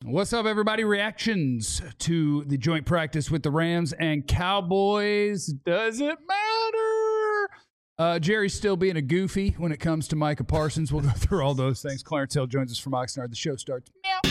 What's up, everybody? Reactions to the joint practice with the Rams and Cowboys. Does it matter? Jerry's still being a goofy when it comes to Micah Parsons. We'll go through all those things. Clarence Hill joins us from Oxnard. The show starts now.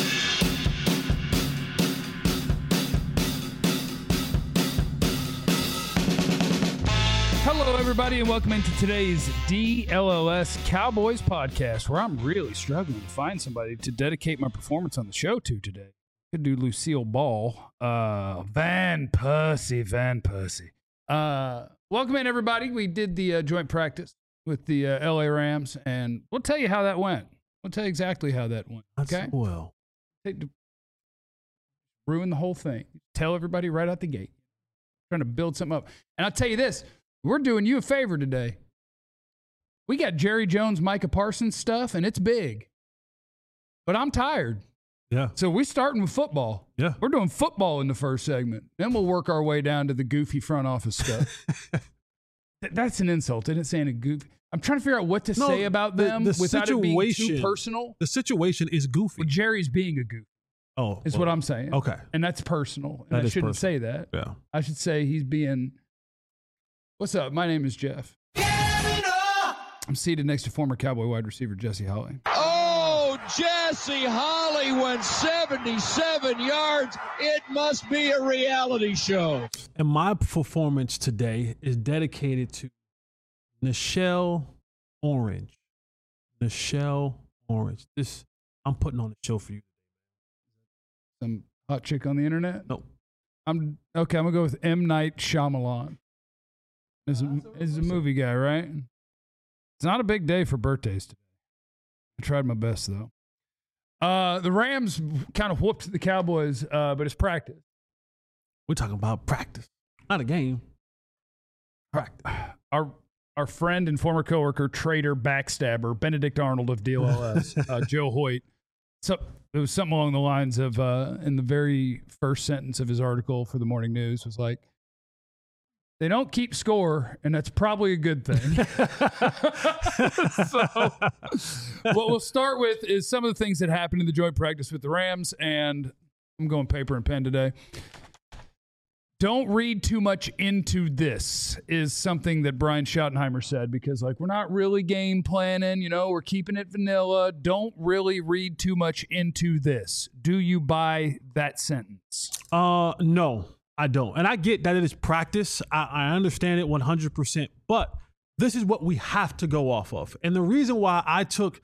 Hello, everybody, and welcome into today's DLLS Cowboys podcast, where I'm really struggling to find somebody to dedicate my performance on the show to today. Could do Lucille Ball. Van Persie. Welcome in, everybody. We did the joint practice with the LA Rams, and we'll tell you how that went. We'll tell you exactly how that went. Okay? Well, Ruin the whole thing. Tell everybody right out the gate. Trying to build something up. And I'll tell you this. We're doing you a favor today. We got Jerry Jones, Micah Parsons stuff, and it's big. But I'm tired. yeah. So we're starting with football. Yeah. We're doing football in the first segment. Then we'll work our way down to the goofy front office stuff. That's an insult. I didn't say any goofy. I'm trying to figure out what to say about them without it being too personal. The situation is goofy. Well, Jerry's being a goof. Oh, is what I'm saying. Okay. And that's personal. And I shouldn't say that. Yeah. I should say he's being... What's up? My name is Jeff. I'm seated next to former Cowboy wide receiver Jesse Holley. Oh, Jesse Holley went 77 yards. It must be a reality show. And my performance today is dedicated to Nichelle Orange. Nichelle Orange. This I'm putting on the show for you. Some hot chick on the internet? No. I'm gonna go with M. Night Shyamalan. Is a movie guy, right? It's not a big day for birthdays today. I tried my best, though. The Rams kind of whooped the Cowboys, but it's practice. We're talking about practice, not a game. Practice. Our friend and former coworker, traitor, backstabber, Benedict Arnold of DLLS, Joe Hoyt. So it was something along the lines of, in the very first sentence of his article for the Morning News, was like, they don't keep score, and that's probably a good thing. So what we'll start with is some of the things that happened in the joint practice with the Rams, and I'm going paper and pen today. Don't read too much into this is something that Brian Schottenheimer said, because we're not really game planning, we're keeping it vanilla. Don't really read too much into this. Do you buy that sentence? No. I don't. And I get that it is practice. I understand it 100%. But this is what we have to go off of. And the reason why I took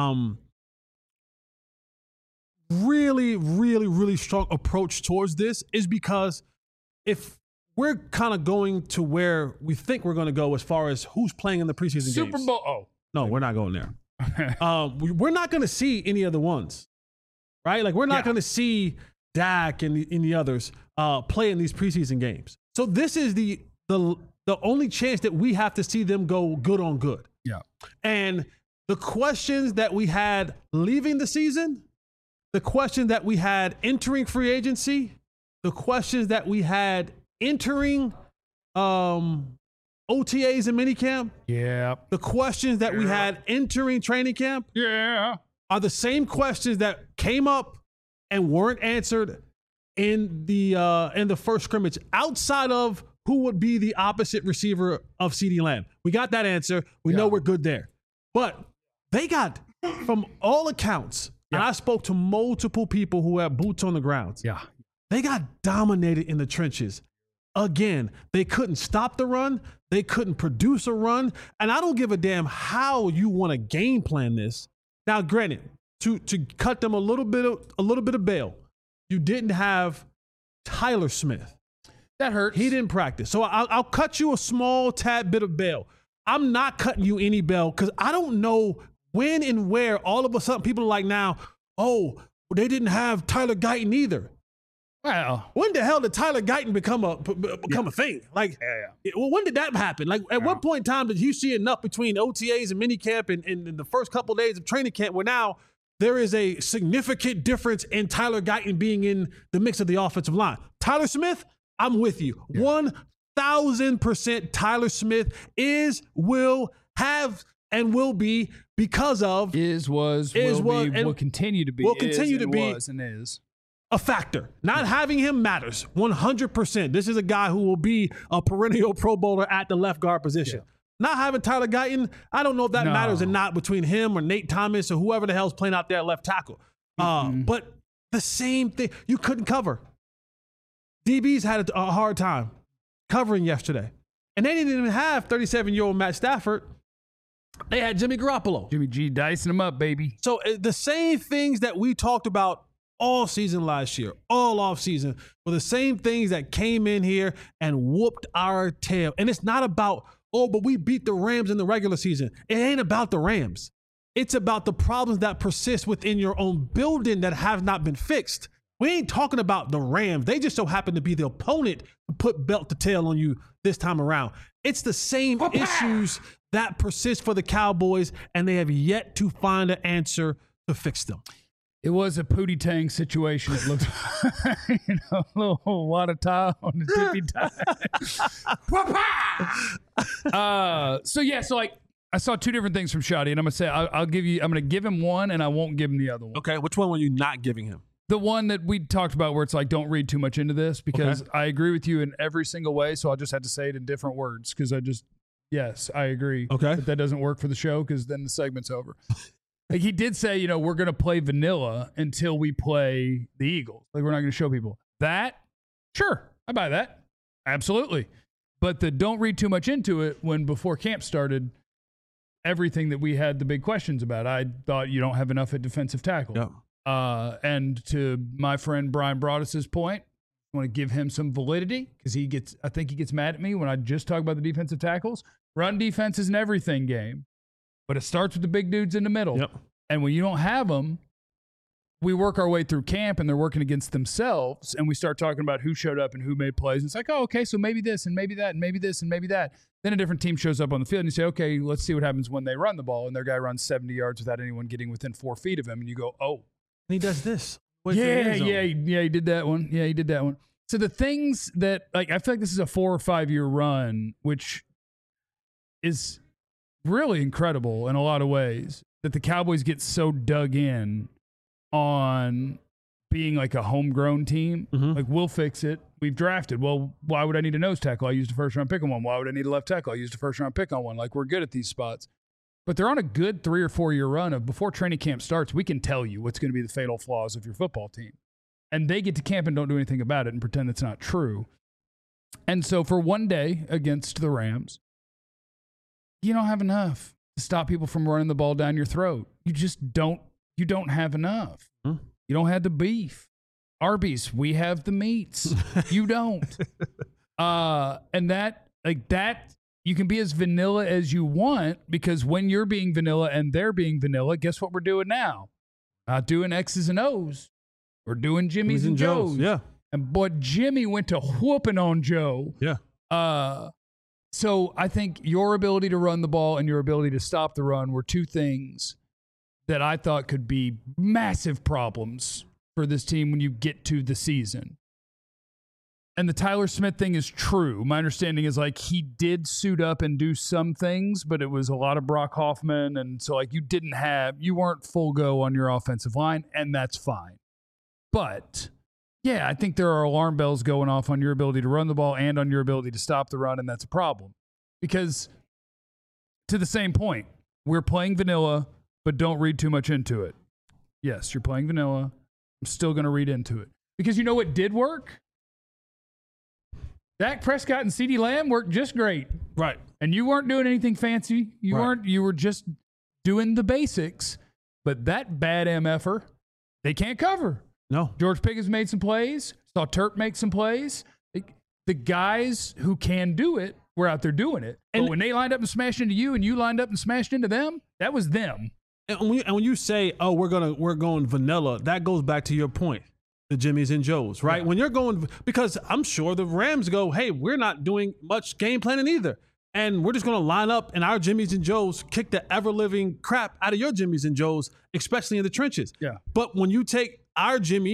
really strong approach towards this is because if we're kind of going to where we think we're going to go as far as who's playing in the preseason games. Super Bowl. Oh. No, we're not going there. We're not going to see any other ones. Right? We're not going to see Dak and the others play in these preseason games. So this is the only chance that we have to see them go good on good. Yeah. And the questions that we had leaving the season, the questions that we had entering free agency, the questions that we had entering OTAs and minicamp, the questions that we had entering training camp, are the same questions that came up and weren't answered in the first scrimmage, outside of who would be the opposite receiver of CeeDee Lamb. We got that answer. We know we're good there. But they got, from all accounts, and I spoke to multiple people who have boots on the ground. Yeah. They got dominated in the trenches. Again, they couldn't stop the run. They couldn't produce a run. And I don't give a damn how you want to game plan this. Now, granted, to cut them a little bit of bail, you didn't have Tyler Smith. That hurts. He didn't practice. So I'll cut you a small tad bit of bail. I'm not cutting you any bail because I don't know when and where all of a sudden people are like now, oh, they didn't have Tyler Guyton either. Well, when the hell did Tyler Guyton become a thing? Well, when did that happen? At what point in time did you see enough between OTAs and minicamp and the first couple of days of training camp where now there is a significant difference in Tyler Guyton being in the mix of the offensive line? Tyler Smith, I'm with you. 1,000% Tyler Smith will have and will be because of will continue to be. Will continue to be was and is a factor. Not having him matters 100%. This is a guy who will be a perennial Pro Bowler at the left guard position. Yeah. Not having Tyler Guyton, I don't know if that matters or not between him or Nate Thomas or whoever the hell's playing out there at left tackle. But the same thing, you couldn't cover. DBs had a hard time covering yesterday. And they didn't even have 37-year-old Matt Stafford. They had Jimmy Garoppolo. Jimmy G dicing them up, baby. So the same things that we talked about all season last year, all offseason, were the same things that came in here and whooped our tail. And it's not about, but we beat the Rams in the regular season. It ain't about the Rams. It's about the problems that persist within your own building that have not been fixed. We ain't talking about the Rams. They just so happen to be the opponent to put belt to tail on you this time around. It's the same issues that persist for the Cowboys, and they have yet to find an answer to fix them. It was a Pootie Tang situation. It looked, a little water towel on the tippy tie. So I saw two different things from Shotty, and I'm gonna say I'm gonna give him one, and I won't give him the other one. Okay, which one were you not giving him? The one that we talked about, where it's like, don't read too much into this, because I agree with you in every single way. So I'll just have to say it in different words, because yes, I agree. Okay, but that doesn't work for the show, because then the segment's over. Like, he did say, we're going to play vanilla until we play the Eagles. Like, we're not going to show people that. Sure, I buy that. Absolutely. But don't read too much into it when before camp started, everything that we had the big questions about. I thought you don't have enough at defensive tackle. Yeah. And to my friend Brian Broaddus's point, I want to give him some validity, because I think he gets mad at me when I just talk about the defensive tackles. Run defense is an everything game. But it starts with the big dudes in the middle. Yep. And when you don't have them, we work our way through camp, and they're working against themselves, and we start talking about who showed up and who made plays. And it's like, oh, okay, so maybe this and maybe that and maybe this and maybe that. Then a different team shows up on the field, and you say, okay, let's see what happens when they run the ball, and their guy runs 70 yards without anyone getting within 4 feet of him, and you go, oh. And he does this. Yeah, he did that one. Yeah, he did that one. So the things that, I feel like this is a 4 or 5 year run, which is really incredible in a lot of ways, that the Cowboys get so dug in on being like a homegrown team. Mm-hmm. Like, we'll fix it. We've drafted. Well, why would I need a nose tackle? I used a first round pick on one. Why would I need a left tackle? I used a first round pick on one. Like, we're good at these spots. But they're on a good 3 or 4 year run of, before training camp starts, we can tell you what's going to be the fatal flaws of your football team. And they get to camp and don't do anything about it and pretend it's not true. And so for one day against the Rams, you don't have enough to stop people from running the ball down your throat. You just don't. You don't have enough. You don't have the beef. Arby's, we have the meats. You don't. And that, you can be as vanilla as you want, because when you're being vanilla and they're being vanilla, guess what we're doing now? Not doing X's and O's. We're doing Jimmy's and Joe's. Yeah. And boy, Jimmy went to whooping on Joe. Yeah. So I think your ability to run the ball and your ability to stop the run were two things that I thought could be massive problems for this team when you get to the season. And the Tyler Smith thing is true. My understanding is, he did suit up and do some things, but it was a lot of Brock Hoffman. And so, you weren't full go on your offensive line, and that's fine. But yeah, I think there are alarm bells going off on your ability to run the ball and on your ability to stop the run, and that's a problem. Because, to the same point, we're playing vanilla, but don't read too much into it. Yes, you're playing vanilla. I'm still going to read into it. Because you know what did work? Dak Prescott and CeeDee Lamb worked just great. Right. And you weren't doing anything fancy. You were just doing the basics. But that bad MFer, they can't cover. No. George Pickens made some plays. Saw Turp make some plays. The guys who can do it were out there doing it. And when they lined up and smashed into you and you lined up and smashed into them, that was them. And when you say, oh, we're going vanilla, that goes back to your point, the Jimmys and Joes, right? Yeah. When you're going, because I'm sure the Rams go, hey, we're not doing much game planning either. And we're just going to line up and our Jimmys and Joes kick the ever-living crap out of your Jimmys and Joes, especially in the trenches. Yeah. But when you take our Jimmy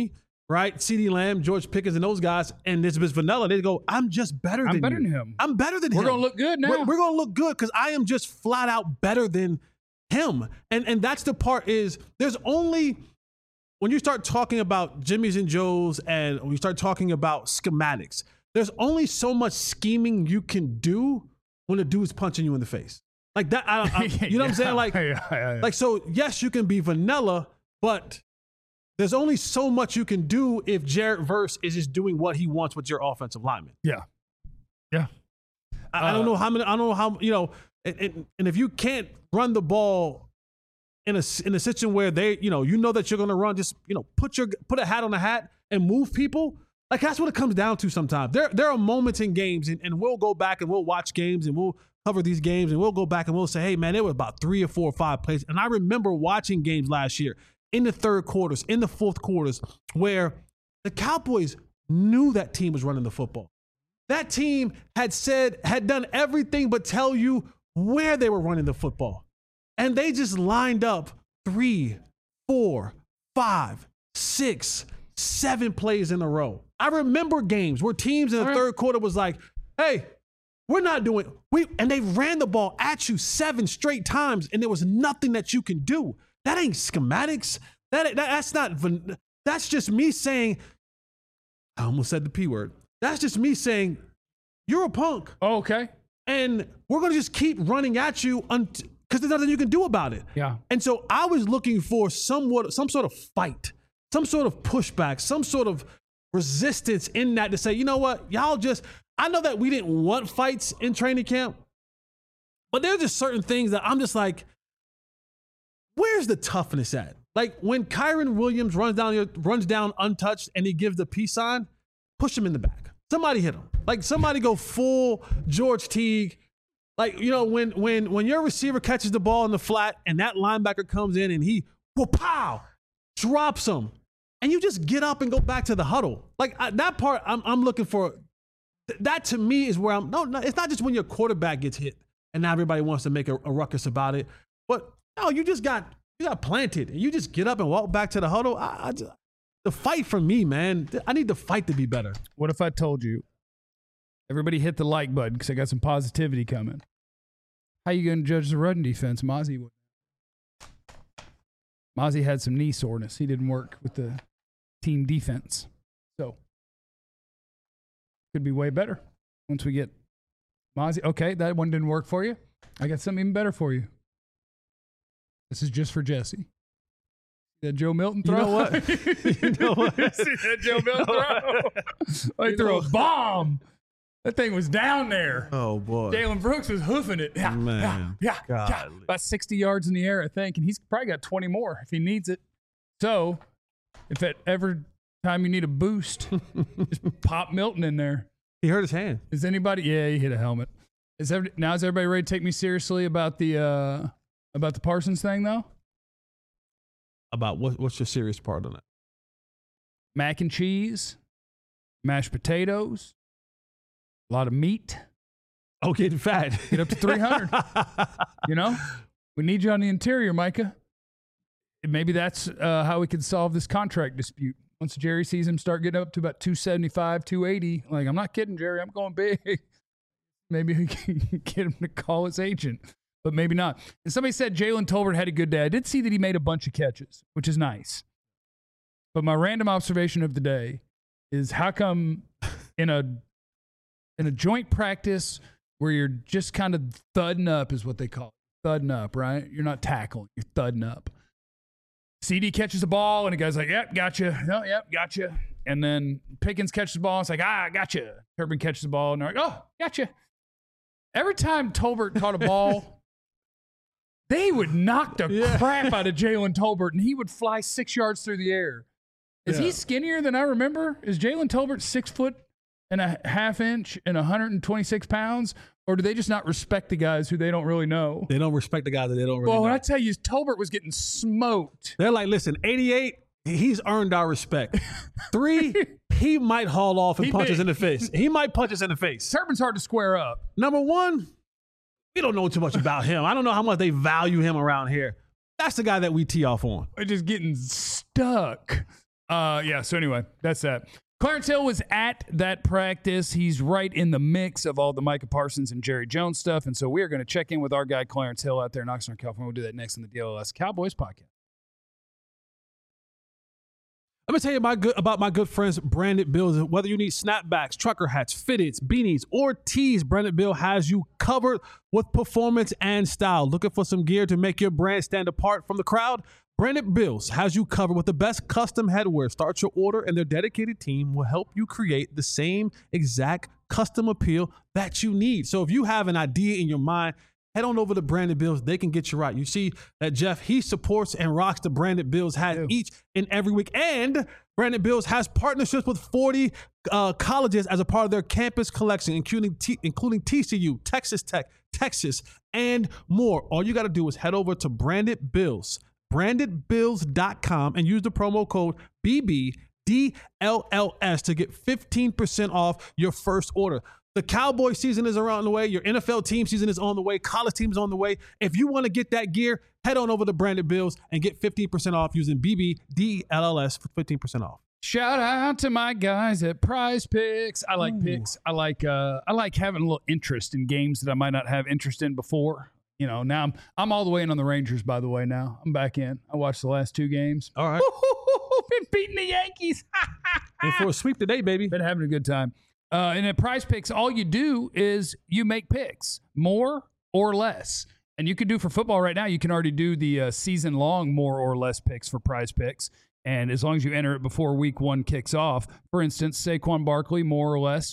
right? CeeDee Lamb, George Pickens, and those guys, and this is vanilla. They go, I'm just better than you. I'm better than him. I'm better than him. We're going to look good now. We're going to look good because I am just flat out better than him. And that's the part is there's only, when you start talking about Jimmys and Joes and when you start talking about schematics, there's only so much scheming you can do when a dude's punching you in the face. Like that, you know what I'm saying? Like, like, so yes, you can be vanilla, but there's only so much you can do if Jared Verse is just doing what he wants with your offensive lineman. Yeah. Yeah. I don't know how many, I don't know how, you know, and if you can't run the ball in a situation where they, you know that you're going to run, just, you know, put a hat on a hat and move people. Like that's what it comes down to sometimes. There are moments in games and we'll go back and we'll watch games and we'll cover these games and we'll go back and we'll say, hey man, there were about 3 or 4 or 5 plays. And I remember watching games last year in the third quarters, in the fourth quarters, where the Cowboys knew that team was running the football. That team had done everything but tell you where they were running the football. And they just lined up 3, 4, 5, 6, 7 plays in a row. I remember games where teams in the third quarter was like, hey, we're not doing, and they ran the ball at you 7 straight times and there was nothing that you can do. That ain't schematics. That's just me saying, I almost said the P word. That's just me saying, you're a punk. Oh, okay. And we're going to just keep running at you because there's nothing you can do about it. Yeah. And so I was looking for some sort of fight, some sort of pushback, some sort of resistance in that to say, you know what, y'all just, I know that we didn't want fights in training camp, but there's just certain things that I'm just like, where's the toughness at? Like when Kyron Williams runs down untouched and he gives the peace sign, push him in the back. Somebody hit him. Like somebody go full George Teague. Like, you know, when your receiver catches the ball in the flat and that linebacker comes in and he, pow, drops him. And you just get up and go back to the huddle. Like that part, I'm looking for. That to me is where no, it's not just when your quarterback gets hit and now everybody wants to make a ruckus about it. But no, you got planted and you just get up and walk back to the huddle. The fight for me, man, I need the fight to be better. What if I told you, everybody hit the like button because I got some positivity coming. How you going to judge the run defense? Mozzie had some knee soreness. He didn't work with the team defense. So, could be way better once we get Mozzie. Okay, that one didn't work for you. I got something even better for you. This is just for Jesse. That Joe Milton throw? You know what? You know what? See that Joe Milton throw? He threw a bomb. That thing was down there. Oh, boy. Jalen Brooks was hoofing it. Yeah, man. Yeah. About 60 yards in the air, I think. And he's probably got 20 more if he needs it. So, if at every time you need a boost, just pop Milton in there. He hurt his hand. Is anybody? Yeah, he hit a helmet. Now is everybody ready to take me seriously about the Parsons thing, though? About what's your serious part on it? Mac and cheese, mashed potatoes, a lot of meat. Oh, getting fat. Get up to 300. You know? We need you on the interior, Micah. Maybe that's how we can solve this contract dispute. Once Jerry sees him start getting up to about 275, 280, like, I'm not kidding, Jerry, I'm going big. Maybe we can get him to call his agent, but maybe not. And somebody said Jalen Tolbert had a good day. I did see that he made a bunch of catches, which is nice. But my random observation of the day is how come in a joint practice where you're just kind of thudding up is what they call it. Thudding up, right? You're not tackling. You're thudding up. CD catches the ball, and the guy's like, yep, gotcha. Oh, yep, gotcha. And then Pickens catches the ball. It's like, gotcha. Turbin catches the ball, and they're like, oh, gotcha. Every time Tolbert caught a ball, they would knock the crap out of Jalen Tolbert, and he would fly 6 yards through the air. Is he skinnier than I remember? Is Jalen Tolbert 6'1.5" and 126 pounds? Or do they just not respect the guys who they don't really know? They don't respect the guys that they don't really know. Well, when I tell you, Tolbert was getting smoked. They're like, listen, 88, he's earned our respect. 3, he might haul off and punch us in the face. He might punch us in the face. Turbin's hard to square up. Number 1, we don't know too much about him. I don't know how much they value him around here. That's the guy that we tee off on. We're just getting stuck. Yeah. So anyway, that's that. Clarence Hill was at that practice. He's right in the mix of all the Micah Parsons and Jerry Jones stuff. And so we are going to check in with our guy, Clarence Hill, out there in Oxnard, California. We'll do that next in the DLS Cowboys podcast. Let me tell you about my good friends, Branded Bills. Whether you need snapbacks, trucker hats, fitteds, beanies, or tees, Branded Bill has you covered with performance and style. Looking for some gear to make your brand stand apart from the crowd? Branded Bills has you covered with the best custom headwear. Start your order, and their dedicated team will help you create the same exact custom appeal that you need. So if you have an idea in your mind, head on over to Branded Bills. They can get you right. You see that Jeff, he supports and rocks the Branded Bills hat each and every week. And Branded Bills has partnerships with 40 colleges as a part of their campus collection, including TCU, Texas Tech, Texas, and more. All you got to do is head over to Branded Bills, brandedbills.com, and use the promo code BBDLLS to get 15% off your first order. The Cowboy season is around the way. Your NFL team season is on the way. College team is on the way. If you want to get that gear, head on over to Branded Bills and get 15% off using BBDLLS for 15% off. Shout out to my guys at Prize Picks. I like picks. I like having a little interest in games that I might not have interest in before. You know, now I'm all the way in on the Rangers, by the way. Now I'm back in. I watched the last 2 games. All right. Been beating the Yankees. And for a sweep today, baby. Been having a good time. And at Prize Picks, all you do is you make picks, more or less. And you can do for football right now, you can already do the season-long more or less picks for Prize Picks. And as long as you enter it before week 1 kicks off, for instance, Saquon Barkley, more or less,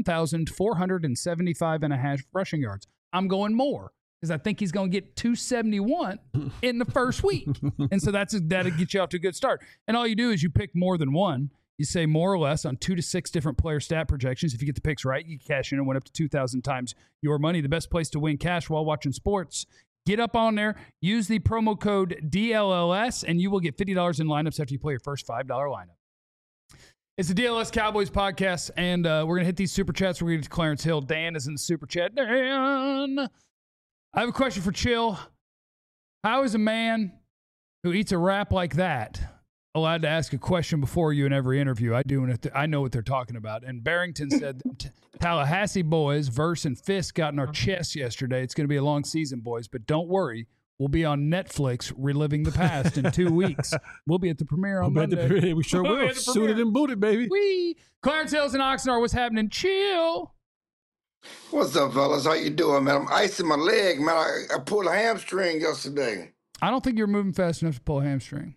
1,475.5 rushing yards. I'm going more because I think he's going to get 271 in the first week. And so that'll get you off to a good start. And all you do is you pick more than one. You say more or less on 2 to 6 different player stat projections. If you get the picks right, you cash in and win up to 2,000 times your money. The best place to win cash while watching sports. Get up on there, use the promo code DLLS, and you will get $50 in lineups after you play your first $5 lineup. It's the DLS Cowboys podcast, and we're going to hit these super chats. We're going to get to Clarence Hill. Dan is in the super chat. Dan! I have a question for Chill. How is a man who eats a wrap like that allowed to ask a question before you in every interview? I do, and I know what they're talking about. And Barrington said, Tallahassee boys, Verse and Fisk got in our chests yesterday. It's going to be a long season, boys, but don't worry. We'll be on Netflix reliving the past in 2 weeks. We'll be at the premiere on Monday. We sure will. Suited and booted, baby. Wee. Clarence Hills and Oxnard, what's happening? Chill. What's up, fellas? How you doing, man? I'm icing my leg, man. I pulled a hamstring yesterday. I don't think you're moving fast enough to pull a hamstring.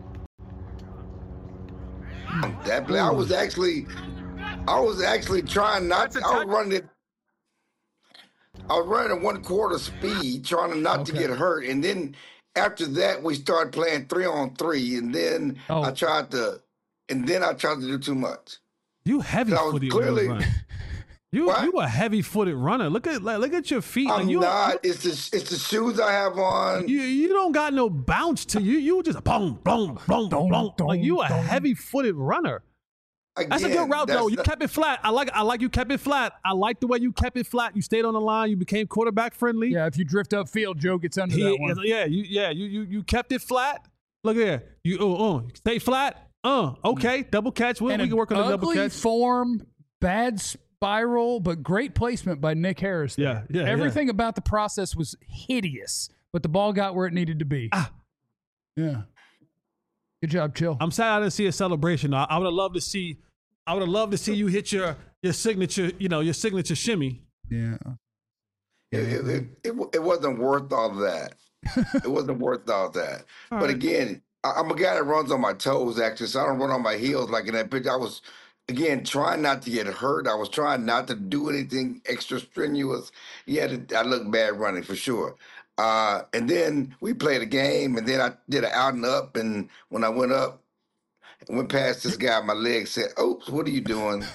Definitely. I was actually trying not to. I was running at 1/4 speed, trying not to get hurt. And then after that, we started playing 3-on-3. And then I tried to do too much. You heavy-footed runner. You a heavy-footed runner. Look at your feet. I'm not. It's the shoes I have on. You don't got no bounce to you. You just boom, boom, boom, boom. Like you a heavy-footed runner. Again, that's a good route, though. You kept it flat. I like you kept it flat. I like the way you kept it flat. You stayed on the line. You became quarterback friendly. Yeah, if you drift upfield, Joe gets under that one. You kept it flat. Look here. You stay flat. Okay, double catch. We can work on the double catch. Form, bad spiral, but great placement by Nick Harris. Yeah. Everything about the process was hideous, but the ball got where it needed to be. Yeah. Good job, Chill. I'm sad I didn't see a celebration. I would have loved to see. You hit your signature. Your signature shimmy. Yeah. It wasn't worth all that. It wasn't worth all that. But again, I'm a guy that runs on my toes, actually, so I don't run on my heels like in that picture. I was, again, trying not to get hurt. I was trying not to do anything extra strenuous. I look bad running for sure. And then we played a game, and then I did an out and up. And when I went up, and went past this guy, my leg said, "Oops, what are you doing?"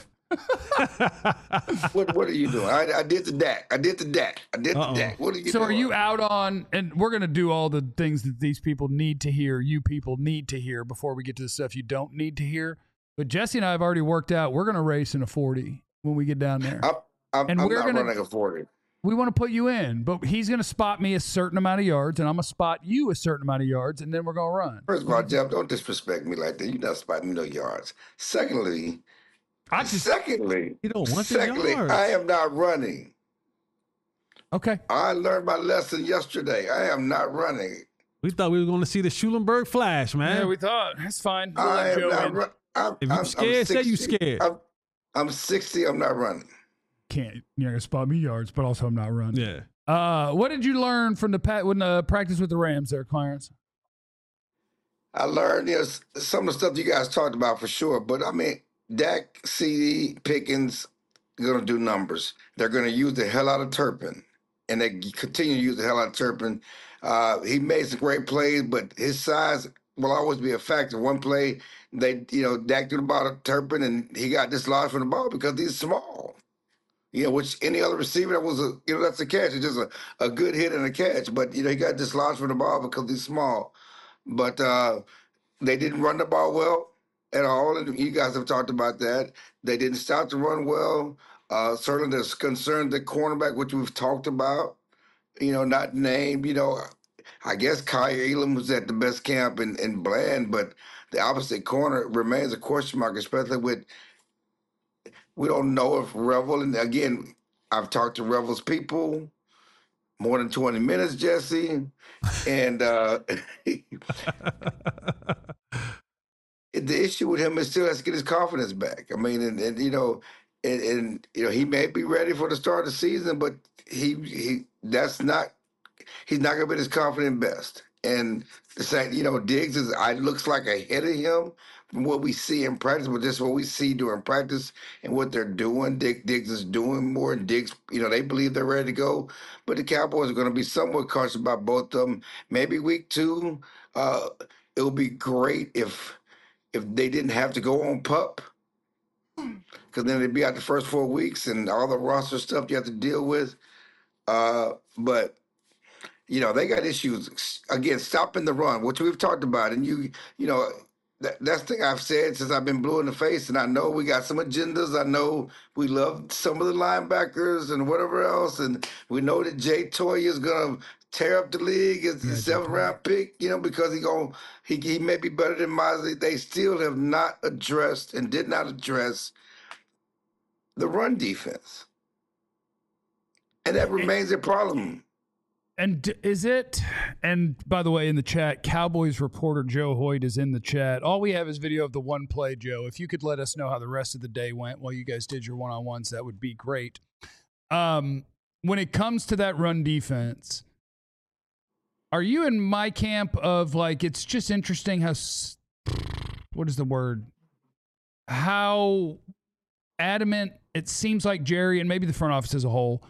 What are you doing? I did the DAC. I did the DAC. What are you doing? So are you out on, and we're going to do all the things that these people need to hear, you people need to hear before we get to the stuff you don't need to hear. But Jesse and I have already worked out, we're going to race in a 40 when we get down there. I'm not running a 40. we want to put you in, but he's going to spot me a certain amount of yards, and I'm going to spot you a certain amount of yards, and then we're going to run. First of all, Jeff, don't disrespect me like that. You're not spotting me no yards. Secondly, you don't want the yards. I am not running. Okay. I learned my lesson yesterday. I am not running. We thought we were going to see the Schulenberg flash, man. Yeah, we thought. That's fine. I am not running. If you're scared, say you scared. I'm 60. I'm not running. You're going to spot me yards, but also I'm not running. Yeah. What did you learn from the practice with the Rams there, Clarence? I learned some of the stuff you guys talked about for sure, but I mean, Dak, CD, Pickens are going to do numbers. They're going to use the hell out of Turpin, and they continue to use the hell out of Turpin. He made some great plays, but his size will always be a factor. One play, Dak threw the ball to Turpin, and he got dislodged from the ball because he's small. Which any other receiver that was that's a catch. It's just a good hit and a catch. But he got dislodged from the ball because he's small. But they didn't run the ball well at all, and you guys have talked about that. They didn't stop to run well. Certainly, there's concerns at cornerback, which we've talked about. Not named. I guess Kai Elam was at the best camp in Bland, but the opposite corner remains a question mark, especially with. We don't know if Revel, and again, I've talked to Revel's people more than 20 minutes, Jesse, and the issue with him is still has to get his confidence back. I mean, and he may be ready for the start of the season, but he's not going to be his confident best. And the same, Diggs looks like ahead of him from what we see in practice, but just what we see during practice and what they're doing. Diggs is doing more, and Diggs, they believe they're ready to go. But the Cowboys are going to be somewhat cautious about both of them. Maybe week 2, it would be great if they didn't have to go on PUP, because then they'd be out the first 4 weeks and all the roster stuff you have to deal with. But they got issues, again, stopping the run, which we've talked about. And that's the thing I've said since I've been blue in the face. And I know we got some agendas. I know we love some of the linebackers and whatever else. And we know that Jay Toye is going to tear up the league as the 7th-round pick, because he may be better than Mosley. They still have not addressed and did not address the run defense. And that remains a problem. And and by the way, in the chat, Cowboys reporter Joe Hoyt is in the chat. All we have is video of the one play, Joe. If you could let us know how the rest of the day went while you guys did your one-on-ones, that would be great. When it comes to that run defense, are you in my camp of it's just interesting how, what is the word? How adamant it seems like Jerry and maybe the front office as a whole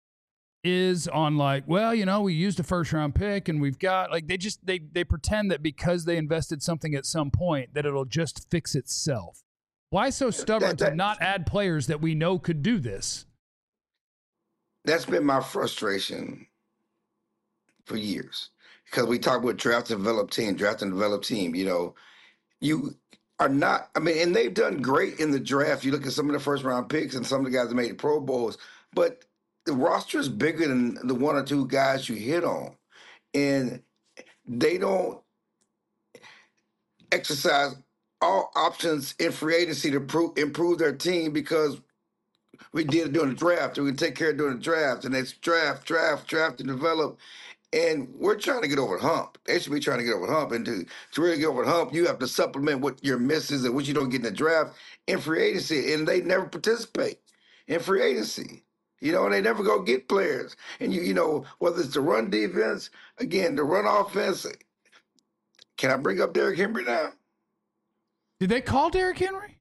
is on we used a 1st-round pick and we've got they pretend that because they invested something at some point that it'll just fix itself. Why so stubborn to not add players that we know could do this? That's been my frustration for years, because we talk about draft and develop team. You are not, and they've done great in the draft. You look at some of the 1st-round picks and some of the guys that made the Pro Bowls, but the roster is bigger than the 1 or 2 guys you hit on, and they don't exercise all options in free agency to improve their team, because we did it during the draft, and we can take care of during the draft, and it's draft, and develop. And we're trying to get over the hump. They should be trying to get over the hump. And to really get over the hump, you have to supplement what your misses and what you don't get in the draft in free agency. And they never participate in free agency. And they never go get players. And, whether it's the run defense, again, the run offense. Can I bring up Derrick Henry now? Did they call Derrick Henry?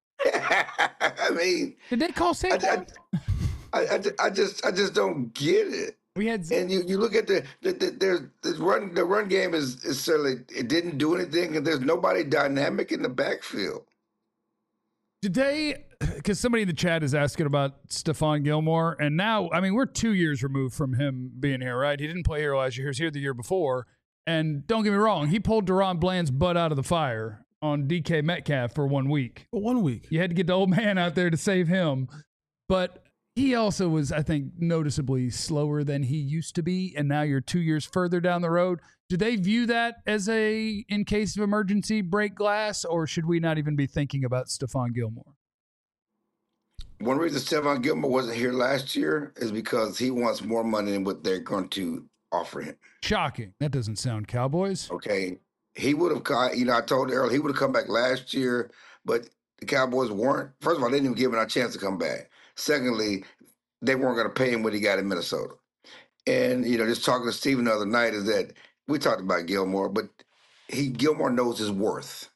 Did they call Saquon? I just don't get it. And you look at the run game is certainly, it didn't do anything, and there's nobody dynamic in the backfield. Did they? Because somebody in the chat is asking about Stephon Gilmore, and now we're 2 years removed from him being here, right? He didn't play here last year; he was here the year before. And don't get me wrong, he pulled Deron Bland's butt out of the fire on DK Metcalf for 1 week. For 1 week, you had to get the old man out there to save him, but He also was, I think, noticeably slower than he used to be, and now you're 2 years further down the road. Do they view that as a, in case of emergency, break glass, or should we not even be thinking about Stephon Gilmore? One reason Stephon Gilmore wasn't here last year is because he wants more money than what they're going to offer him. Shocking. That doesn't sound Cowboys. Okay. He would have, I told Earl he would have come back last year, but the Cowboys weren't. First of all, they didn't even give him a chance to come back. Secondly, they weren't going to pay him what he got in Minnesota. And, just talking to Steven the other night is that we talked about Gilmore, but Gilmore knows his worth.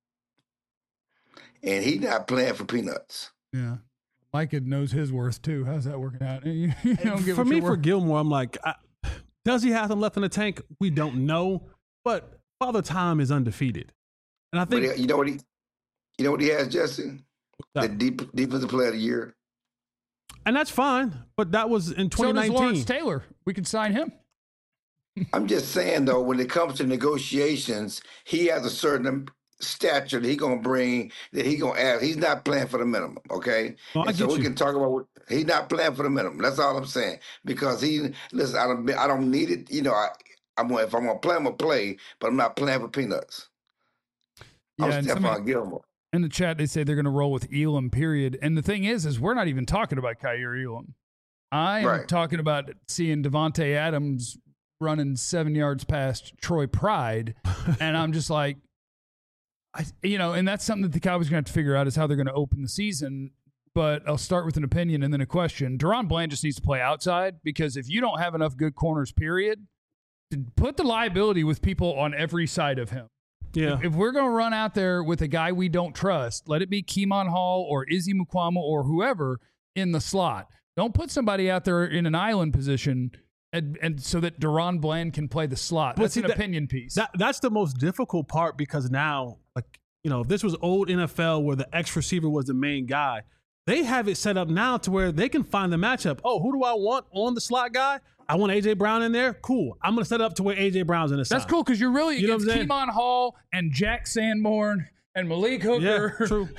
And he's not playing for peanuts. Yeah. Micah knows his worth, too. How's that working out? For me, for Gilmore, I'm like, does he have them left in the tank? We don't know. But Father Time is undefeated. And I think... But you know what he has, Jesse? The defensive player of the year. And that's fine, but that was in 2019. So does Lawrence Taylor. We can sign him. I'm just saying, though, when it comes to negotiations, he has a certain stature that he's going to bring, that he's going to add. He's not playing for the minimum, okay? Well, so we can talk about he's not playing for the minimum. That's all I'm saying. Because listen, I don't need it. If I'm going to play, I'm going to play, but I'm not playing for peanuts. Yeah, I'm Stephon Gilmore. In the chat, they say they're going to roll with Elam, period. And the thing is we're not even talking about Kaiir Elam. I'm talking about seeing Devontae Adams running 7 yards past Troy Pride. And I'm just like, and that's something that the Cowboys are going to have to figure out is how they're going to open the season. But I'll start with an opinion and then a question. DaRon Bland just needs to play outside because if you don't have enough good corners, period, put the liability with people on every side of him. Yeah. If we're going to run out there with a guy we don't trust, let it be Keemon Hall or Izzy Mukwama or whoever in the slot. Don't put somebody out there in an island position and so that DaRon Bland can play the slot. That's an opinion piece. That's the most difficult part because now, if this was old NFL where the X receiver was the main guy, they have it set up now to where they can find the matchup. Oh, who do I want on the slot guy? I want A.J. Brown in there. Cool. I'm going to set it up to where A.J. Brown's in the side. That's cool because you're really against Keemon Hall and Jack Sanborn and Malik Hooker. Yeah, true.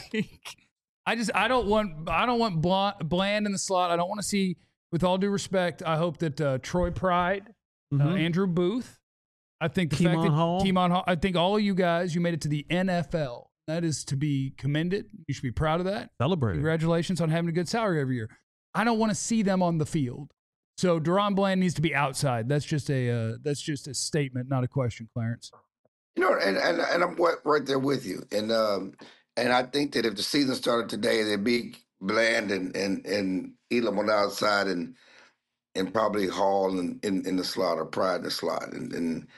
I don't want Bland in the slot. I don't want to see, with all due respect, I hope that Troy Pride, Andrew Booth, I think Keemon Hall, I think all of you guys, you made it to the NFL. That is to be commended. You should be proud of that. Celebrate. Congratulations on having a good salary every year. I don't want to see them on the field. So DaRon Bland needs to be outside. That's just a statement, not a question, Clarence. And I'm right there with you. And I think that if the season started today, there'd be Bland and Elam on the outside and probably Hall in the slot or Pride in the slot, and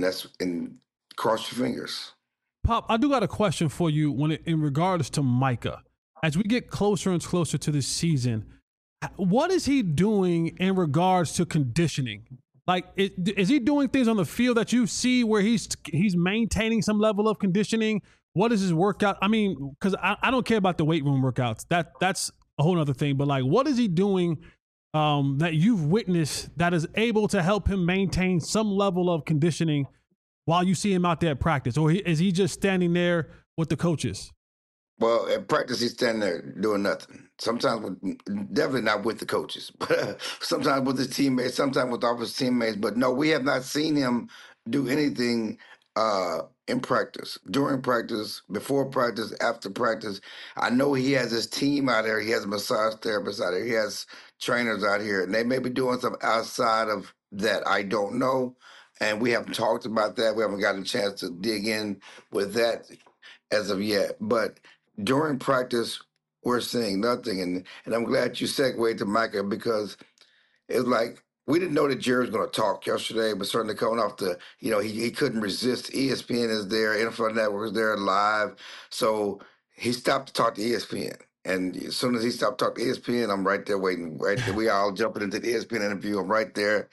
cross your fingers. Pop, I do got a question for you in regards to Micah. As we get closer and closer to this season, what is he doing in regards to conditioning? Like, is he doing things on the field that you see where he's maintaining some level of conditioning? What is his workout? I mean, because I don't care about the weight room workouts. That's a whole other thing. But, like, what is he doing that you've witnessed that is able to help him maintain some level of conditioning while you see him out there at practice? Or is he just standing there with the coaches? Well, at practice, he's standing there doing nothing. Sometimes, definitely not with the coaches, but sometimes with his teammates, sometimes with all his teammates. But no, we have not seen him do anything in practice, during practice, before practice, after practice. I know he has his team out there. He has a massage therapist out there. He has trainers out here, and they may be doing something outside of that. I don't know, and we haven't talked about that. We haven't gotten a chance to dig in with that as of yet. But during practice, we're seeing nothing. And I'm glad you segued to Micah because it's like we didn't know that Jerry was going to talk yesterday, but certainly coming off he couldn't resist. ESPN is there, NFL Network is there live. So he stopped to talk to ESPN. And as soon as he stopped talking to ESPN, I'm right there waiting. Right there. We all jumping into the ESPN interview. I'm right there.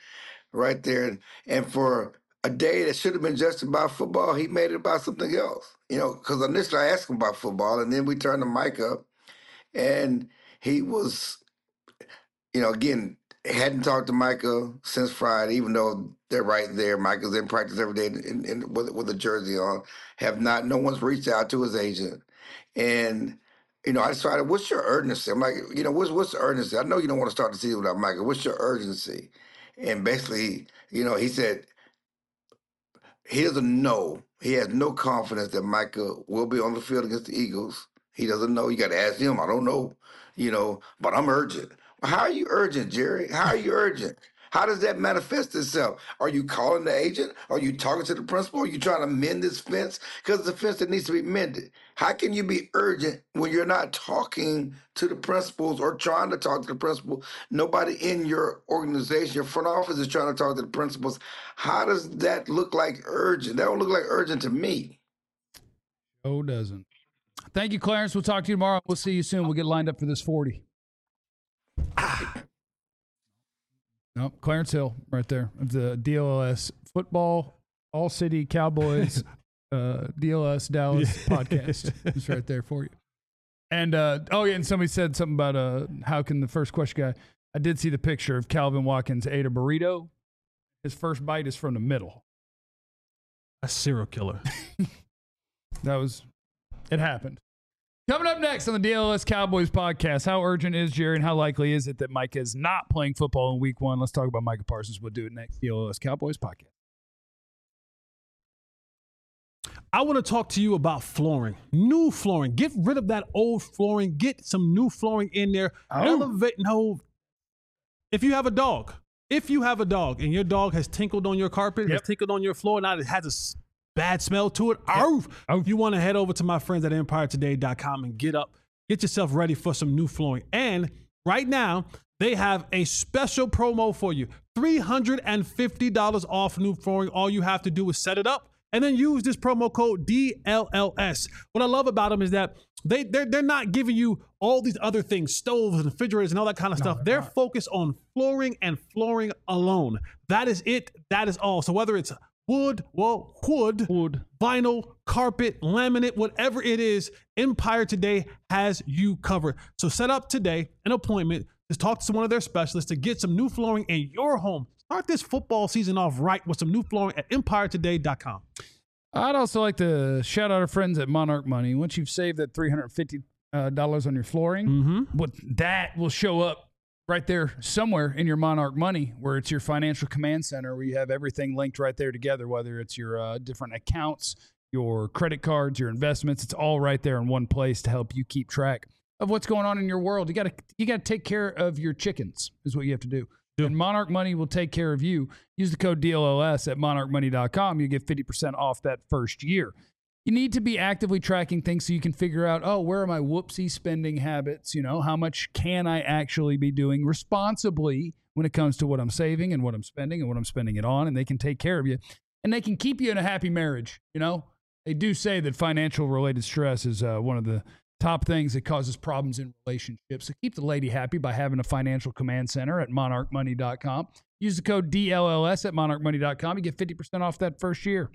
And for a day that should have been just about football, he made it about something else. Because initially I asked him about football, and then we turned the mic up, and he was, again, hadn't talked to Micah since Friday, even though they're right there. Micah's in practice every day with a jersey on. No one's reached out to his agent. And I decided, what's your urgency? I'm like, what's the urgency? I know you don't want to start the season without Micah. What's your urgency? And basically, he said he doesn't know. He has no confidence that Micah will be on the field against the Eagles. He doesn't know. You got to ask him. I don't know, but I'm urgent. Well, how are you urgent, Jerry? How are you urgent? How does that manifest itself? Are you calling the agent? Are you talking to the principal? Are you trying to mend this fence? Because it's a fence that needs to be mended. How can you be urgent when you're not talking to the principals or trying to talk to the principal? Nobody in your organization, your front office is trying to talk to the principals. How does that look like urgent? That don't look like urgent to me. Oh, doesn't. Thank you, Clarence. We'll talk to you tomorrow. We'll see you soon. We'll get lined up for this 40. No, Clarence Hill right there of the DLS football, all city Cowboys, DLS Dallas podcast. It's right there for you. And, and somebody said something about how can the first question guy, I did see the picture of Calvin Watkins ate a burrito. His first bite is from the middle. A serial killer. It happened. Coming up next on the DLS Cowboys podcast, how urgent is Jerry and how likely is it that Micah is not playing football in week 1? Let's talk about Micah Parsons. We'll do it next. DLS Cowboys podcast. I want to talk to you about flooring. New flooring. Get rid of that old flooring. Get some new flooring in there. Elevate. No. If you have a dog and your dog has tinkled on your carpet, has tinkled on your floor, now it has a bad smell to it. You want to head over to my friends at EmpireToday.com and get yourself ready for some new flooring. And right now, they have a special promo for you. $350 off new flooring. All you have to do is set it up and then use this promo code DLLS. What I love about them is that they're not giving you all these other things, stoves and refrigerators and all that kind of stuff. They're focused on flooring and flooring alone. That is it. That is all. So whether it's wood, vinyl, carpet, laminate, whatever it is, Empire Today has you covered. So set up today an appointment to talk to one of their specialists to get some new flooring in your home. Start this football season off right with some new flooring at EmpireToday.com. I'd also like to shout out our friends at Monarch Money. Once you've saved that $350 on your flooring, that will show up right there somewhere in your Monarch Money, where it's your financial command center, where you have everything linked right there together, whether it's your different accounts, your credit cards, your investments. It's all right there in one place to help you keep track of what's going on in your world. You got to take care of your chickens is what you have to do. And Monarch Money will take care of you. Use the code DLLS at monarchmoney.com. You get 50% off that first year. You need to be actively tracking things so you can figure out, where are my whoopsie spending habits? How much can I actually be doing responsibly when it comes to what I'm saving and what I'm spending and what I'm spending it on? And they can take care of you and they can keep you in a happy marriage. They do say that financial related stress is one of the top things that causes problems in relationships. So keep the lady happy by having a financial command center at monarchmoney.com. Use the code DLLS at monarchmoney.com. You get 50% off that first year.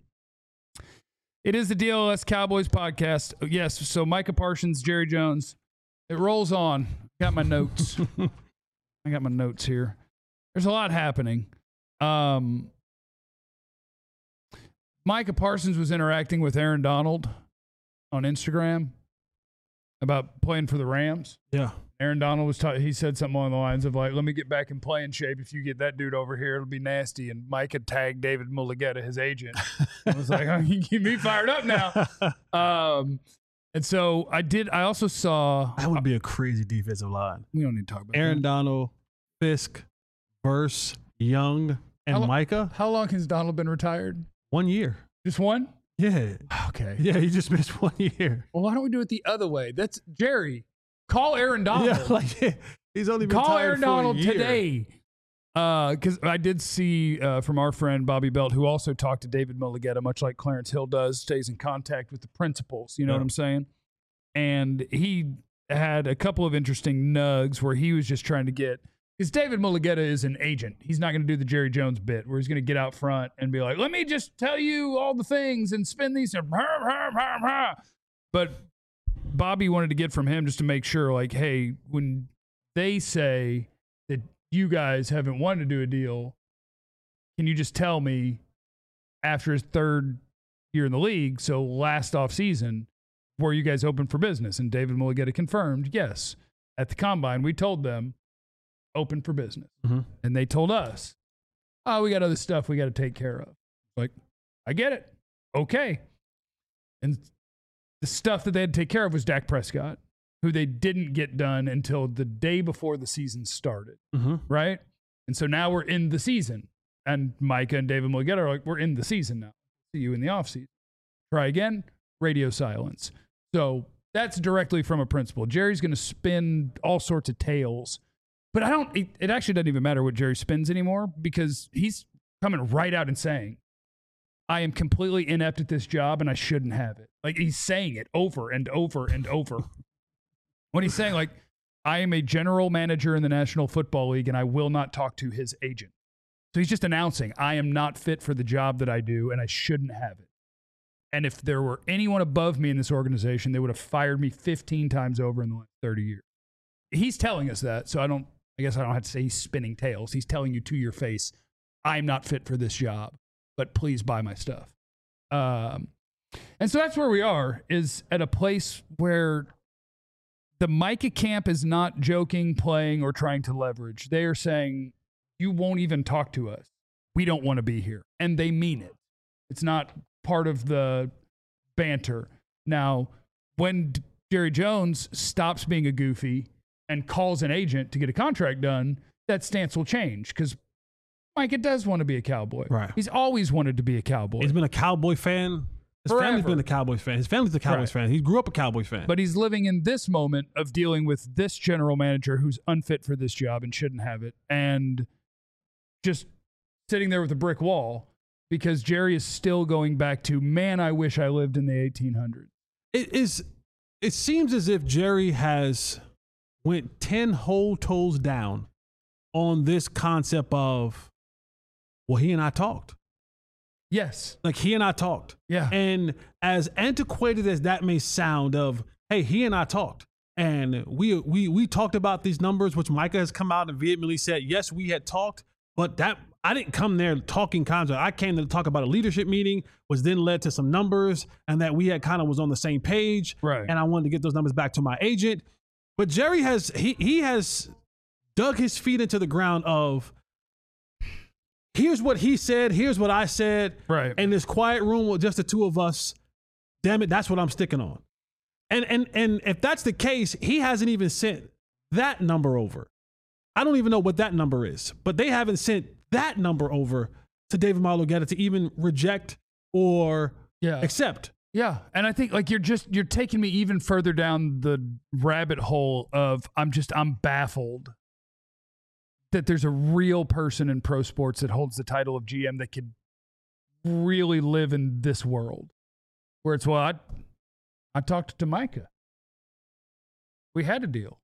It is the DLS Cowboys podcast. Yes, so Micah Parsons, Jerry Jones. It rolls on. Got my notes. I got my notes here. There's a lot happening. Micah Parsons was interacting with Aaron Donald on Instagram about playing for the Rams. Yeah. Aaron Donald he said something along the lines of like, let me get back in playing shape. If you get that dude over here, it'll be nasty. And Mike had tagged David Mulligetta, his agent. I was like, you get me fired up now. And so I also saw. That would be a crazy defensive line. We don't need to talk about Aaron that. Donald, Fisk, Verse, Young, and Micah. How long has Donald been retired? 1 year. Just one? Yeah. Okay. Yeah, he just missed 1 year. Well, why don't we do it the other way? That's Jerry. Call Aaron Donald. Yeah, he's only been Call retired Aaron for Donald a year. today. Because I did see from our friend Bobby Belt, who also talked to David Mulligetta, much like Clarence Hill does, stays in contact with the principals. You know what I'm saying? And he had a couple of interesting nugs where he was just trying to get, because David Mulligetta is an agent. He's not going to do the Jerry Jones bit where he's going to get out front and be like, let me just tell you all the things and spin these. But Bobby wanted to get from him just to make sure, like, hey, when they say that you guys haven't wanted to do a deal, can you just tell me after his third year in the league, so last offseason, were you guys open for business? And David Mulugheta confirmed, yes. At the Combine, we told them, open for business. Mm-hmm. And they told us, oh, we got other stuff we got to take care of. Like, I get it. Okay. And the stuff that they had to take care of was Dak Prescott, who they didn't get done until the day before the season started. Mm-hmm. Right? And so now we're in the season. And Micah and David Mulugheta are like, we're in the season now. See you in the offseason. Try again, radio silence. So that's directly from a principal. Jerry's going to spin all sorts of tales. But it actually doesn't even matter what Jerry spins anymore because he's coming right out and saying, I am completely inept at this job and I shouldn't have it. Like he's saying it over and over and over. When he's saying like, I am a general manager in the National Football League and I will not talk to his agent. So he's just announcing, I am not fit for the job that I do and I shouldn't have it. And if there were anyone above me in this organization, they would have fired me 15 times over in the last 30 years. He's telling us that, so I guess I don't have to say he's spinning tales. He's telling you to your face, I'm not fit for this job, but please buy my stuff. And so that's where we are, is at a place where the Micah camp is not joking, playing, or trying to leverage. They are saying, you won't even talk to us. We don't want to be here. And they mean it. It's not part of the banter. Now, when Jerry Jones stops being a goofy and calls an agent to get a contract done, that stance will change because Micah does want to be a Cowboy. Right. He's always wanted to be a Cowboy. He's been a Cowboy fan. His Forever. family's been a Cowboys fan. His family's a Cowboys fan. He grew up a Cowboys fan. But he's living in this moment of dealing with this general manager who's unfit for this job and shouldn't have it. And just sitting there with a brick wall because Jerry is still going back to, man, I wish I lived in the 1800s. It seems as if Jerry has went 10 whole toes down on this concept of, well, he and I talked. Yes. Like he and I talked. Yeah. And as antiquated as that may sound of, hey, he and I talked. And we talked about these numbers, which Micah has come out and vehemently said, yes, we had talked, but that I didn't come there talking contract. I came to talk about a leadership meeting, which then led to some numbers, and that we had kind of was on the same page. Right. And I wanted to get those numbers back to my agent. But Jerry has he has dug his feet into the ground of, here's what he said, here's what I said. Right. In this quiet room with just the two of us, damn it, that's what I'm sticking on. And if that's the case, he hasn't even sent that number over. I don't even know what that number is, but they haven't sent that number over to David Mulugheta to even reject or accept. Yeah. And I think like you're taking me even further down the rabbit hole of I'm baffled that there's a real person in pro sports that holds the title of GM that could really live in this world where it's, well, I talked to Micah. We had a deal.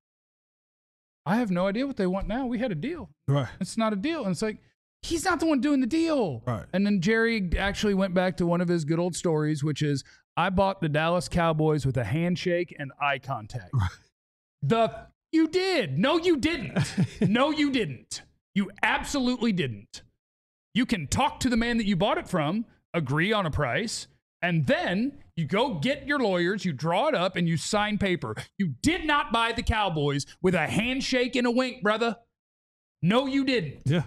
I have no idea what they want now. We had a deal. Right. It's not a deal. And it's like, he's not the one doing the deal. Right. And then Jerry actually went back to one of his good old stories, which is, I bought the Dallas Cowboys with a handshake and eye contact. Right. You did. No, you didn't. No, you didn't. You absolutely didn't. You can talk to the man that you bought it from, agree on a price, and then you go get your lawyers, you draw it up, and you sign paper. You did not buy the Cowboys with a handshake and a wink, brother. No, you didn't. Yeah.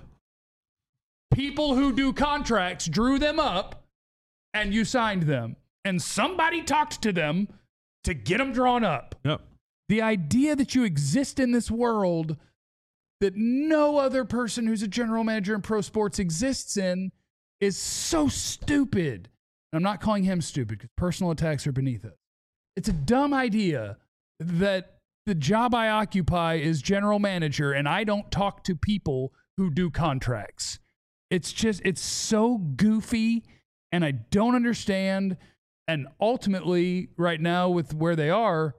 People who do contracts drew them up, and you signed them. And somebody talked to them to get them drawn up. Yep. The idea that you exist in this world that no other person who's a general manager in pro sports exists in is so stupid. And I'm not calling him stupid because personal attacks are beneath it. It's a dumb idea that the job I occupy is general manager and I don't talk to people who do contracts. It's so goofy and I don't understand. And ultimately, right now with where they are,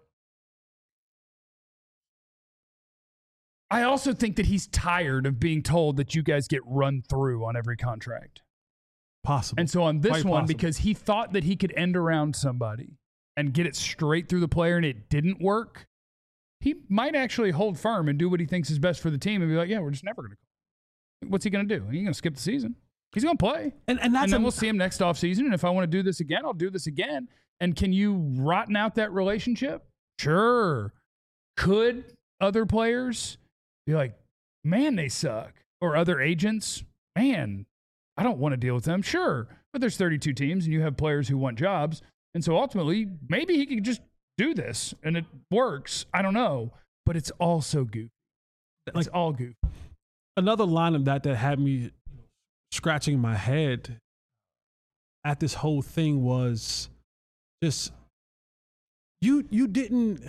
I also think that he's tired of being told that you guys get run through on every contract. Possible. And so on this Quite one, possible. because he thought that he could end around somebody and get it straight through the player and it didn't work, he might actually hold firm and do what he thinks is best for the team and be like, yeah, we're just never going to. What's he going to do? He's going to skip the season. He's going to play. And then we'll see him next offseason. And if I want to do this again, I'll do this again. And can you rotten out that relationship? Sure. Could other players be like, man, they suck? Or other agents, man, I don't want to deal with them. Sure. But there's 32 teams and you have players who want jobs. And so ultimately, maybe he could just do this and it works. I don't know. But it's all so goofy. It's all goofy. Another line of that had me scratching my head at this whole thing was just, you didn't,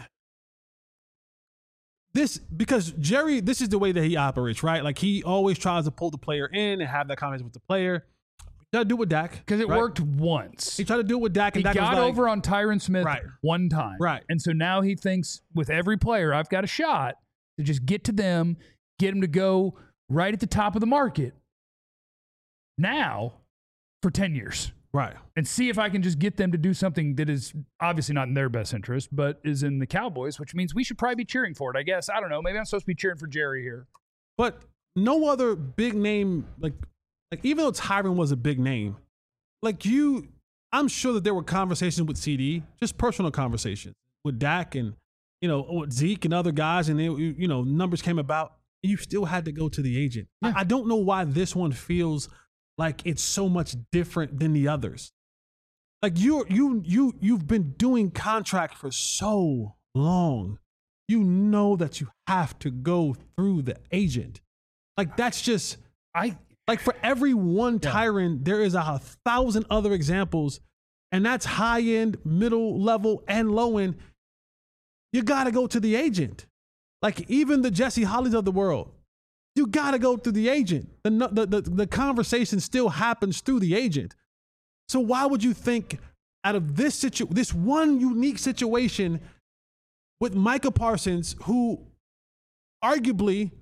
this, because Jerry, this is the way that he operates, right? Like he always tries to pull the player in and have that conversation with the player. He tried to do it with Dak. Because it worked once. He tried to do it with Dak. And he Dak got was like, over on Tyron Smith one time. Right. And so now he thinks with every player, I've got a shot to just get to them, get them to go right at the top of the market now for 10 years. Right. And see if I can just get them to do something that is obviously not in their best interest, but is in the Cowboys, which means we should probably be cheering for it, I guess. I don't know. Maybe I'm supposed to be cheering for Jerry here. But no other big name, like even though Tyron was a big name, I'm sure that there were conversations with CD, just personal conversations with Dak and, with Zeke and other guys, and numbers came about. You still had to go to the agent. Yeah. I don't know why this one feels like it's so much different than the others. Like you've been doing contract for so long. You know that you have to go through the agent. Like that's just for every one Tyron, there is 1,000 other examples, and that's high end, middle level, and low end. You got to go to the agent. Like even the Jesse Hollies of the world, you got to go through the agent. The conversation still happens through the agent. So why would you think out of this one unique situation with Micah Parsons, who arguably,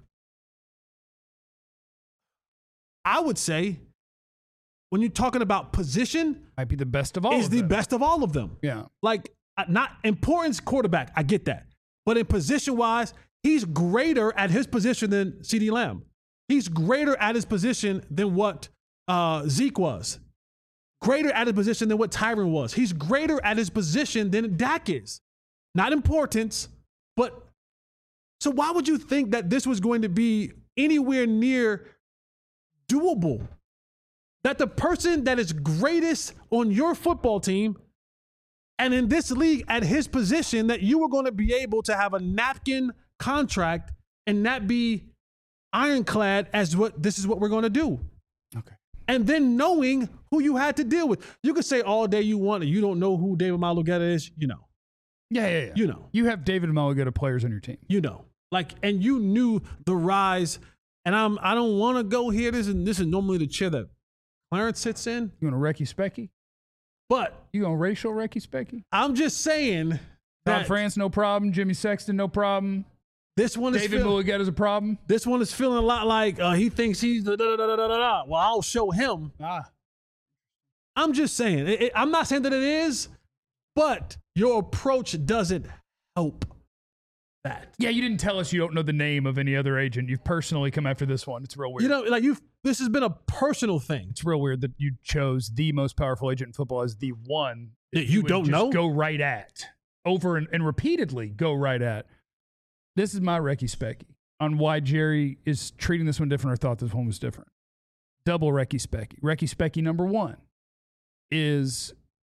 I would say, when you're talking about position, might be the best of all is of the them. best of all of them. Yeah. Like not importance quarterback, I get that. But in position wise, he's greater at his position than CeeDee Lamb. He's greater at his position than what Zeke was. Greater at his position than what Tyron was. He's greater at his position than Dak is. Not importance, but so why would you think that this was going to be anywhere near doable? That the person that is greatest on your football team and in this league at his position, that you were going to be able to have a napkin contract and not be ironclad as this is what we're going to do. Okay. And then knowing who you had to deal with. You could say all day you want, and you don't know who David Malugetta is, Yeah. You know. You have David Malugetta players on your team. And you knew the rise. And I don't want to go here. This is normally the chair that Clarence sits in. You want a Recky Specky? But you want racial Recky Specky? I'm just saying Todd France, no problem. Jimmy Sexton, no problem. This one is David Malugetta is a problem. This one is feeling a lot like he thinks he's the da-da-da-da-da-da. Well, I'll show him. I'm just saying. I'm not saying that it is, but your approach doesn't help that. Yeah, you didn't tell us you don't know the name of any other agent. You've personally come after this one. It's real weird. This has been a personal thing. It's real weird that you chose the most powerful agent in football as the one that you don't know. Go right at over and repeatedly go right at. This is my Recky Specky on why Jerry is treating this one different or thought this one was different. Double Recky Specky. Recky Specky number one is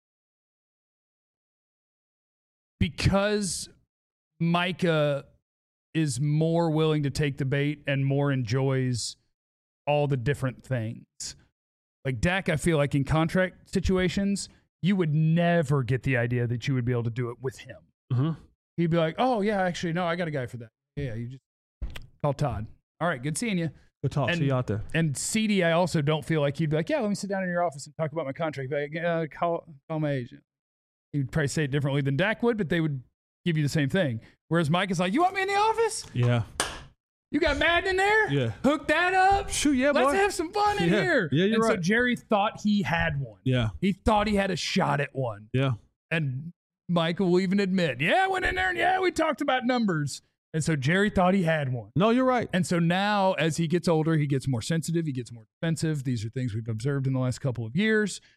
because Micah is more willing to take the bait and more enjoys all the different things. Like Dak, I feel like in contract situations, you would never get the idea that you would be able to do it with him. Mm-hmm. He'd be like, oh, yeah, actually, no, I got a guy for that. Yeah, you just call Todd. All right, good seeing you. Good talk. See you out there. And CD, I also don't feel like he'd be like, yeah, let me sit down in your office and talk about my contract. Like, call my agent. He'd probably say it differently than Dak would, but they would give you the same thing. Whereas Mike is like, you want me in the office? Yeah. You got Madden in there? Yeah. Hook that up? Shoot, yeah, boy. Let's have some fun in here. Yeah, you're right. So Jerry thought he had one. Yeah. He thought he had a shot at one. Yeah. And Michael will even admit, yeah, I went in there and yeah, we talked about numbers. And so Jerry thought he had one. No, you're right. And so now as he gets older, he gets more sensitive. He gets more defensive. These are things we've observed in the last couple of years.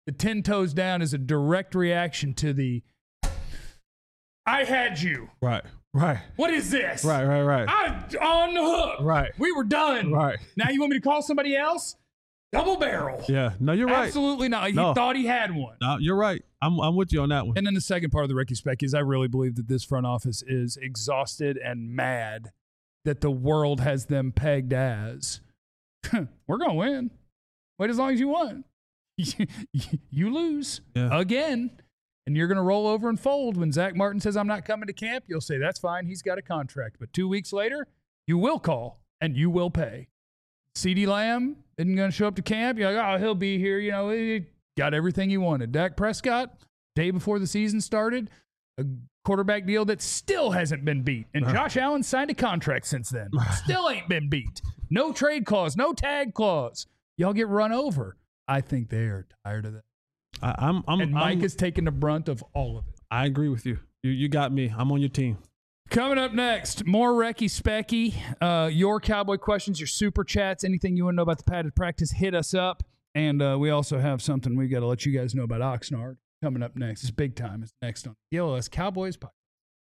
The 10 toes down is a direct reaction to the I had you. Right. What is this? Right. I'm on the hook. Right. We were done. Right. Now you want me to call somebody else? Double barrel. Yeah. No, you're right. Absolutely not. He thought he had one. No, you're right. I'm with you on that one. And then the second part of the Ricky Spec is I really believe that this front office is exhausted and mad that the world has them pegged as, we're going to win. Wait as long as you want. You lose again. And you're going to roll over and fold when Zach Martin says, I'm not coming to camp. You'll say, that's fine. He's got a contract. But 2 weeks later, you will call and you will pay. CeeDee Lamb isn't going to show up to camp. You're like, oh, he'll be here. You know, he got everything he wanted. Dak Prescott, day before the season started, a quarterback deal that still hasn't been beat. And Josh Allen signed a contract since then. Still ain't been beat. No trade clause, no tag clause. Y'all get run over. I think they are tired of that. And Mike is taking the brunt of all of it. I agree with you. You got me. I'm on your team. Coming up next, more Recky Specky. Your Cowboy questions, your super chats, anything you want to know about the padded practice, hit us up. And we also have something we got to let you guys know about Oxnard coming up next. It's big time. It's next on the LS Cowboys podcast.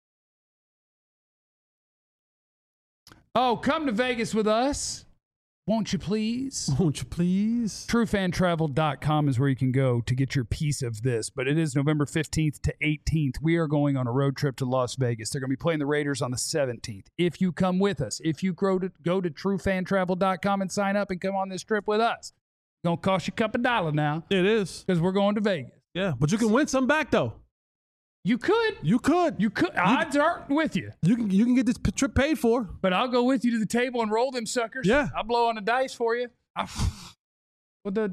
Oh, come to Vegas with us. Won't you please? Won't you please? TrueFanTravel.com is where you can go to get your piece of this. But it is November 15th to 18th. We are going on a road trip to Las Vegas. They're going to be playing the Raiders on the 17th. If you come with us, if you go to TrueFanTravel.com and sign up and come on this trip with us, it's going to cost you a couple $2 now. It is. Because we're going to Vegas. Yeah, but you can win some back, though. You could. Odds aren't with you. You can get this trip paid for. But I'll go with you to the table and roll them suckers. Yeah. I'll blow on the dice for you. That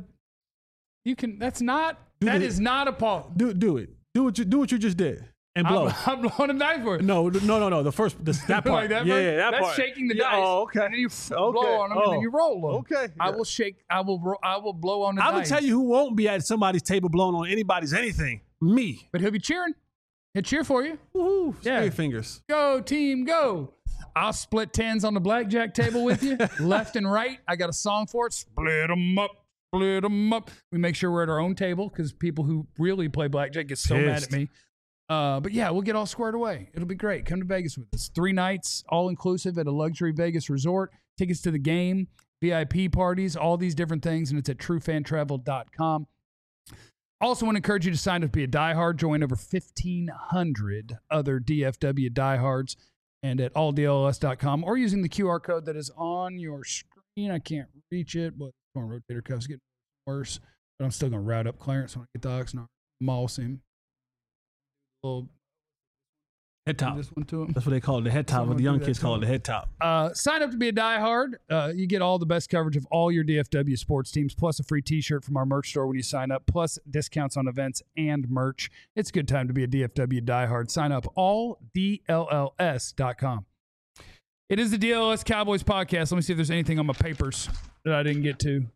is not a pause. Do it. Do what you just did. And blow. I'm blowing a dice for it. No. That part. Like that yeah, that That's part. shaking the dice. Oh, okay. And then you blow on them and then you roll them. Okay. I will blow on the dice. I will tell you who won't be at somebody's table blowing on anybody's anything. Me. But he'll be cheering. He'll cheer for you. Woohoo. Yeah. Straight fingers. Go, team, go. I'll split tens on the blackjack table with you, left and right. I got a song for it. Split them up. We make sure we're at our own table because people who really play blackjack get so mad at me. But yeah, we'll get all squared away. It'll be great. Come to Vegas with us. 3 nights, all inclusive at a luxury Vegas resort. Tickets to the game, VIP parties, all these different things. And it's at TrueFanTravel.com. Also want to encourage you to sign up to be a diehard. Join over 1,500 other DFW diehards and at alldls.com or using the QR code that is on your screen. I can't reach it, but my rotator cuff's getting worse. But I'm still going to route up Clarence when I get to Oxnard. Moss him. Little head top. This one to him. That's what they call it, the head top. What the young kids call it, the head top. Sign up to be a diehard. You get all the best coverage of all your DFW sports teams, plus a free T-shirt from our merch store when you sign up, plus discounts on events and merch. It's a good time to be a DFW diehard. Sign up alldlls.com. It is the DLS Cowboys podcast. Let me see if there's anything on my papers that I didn't get to.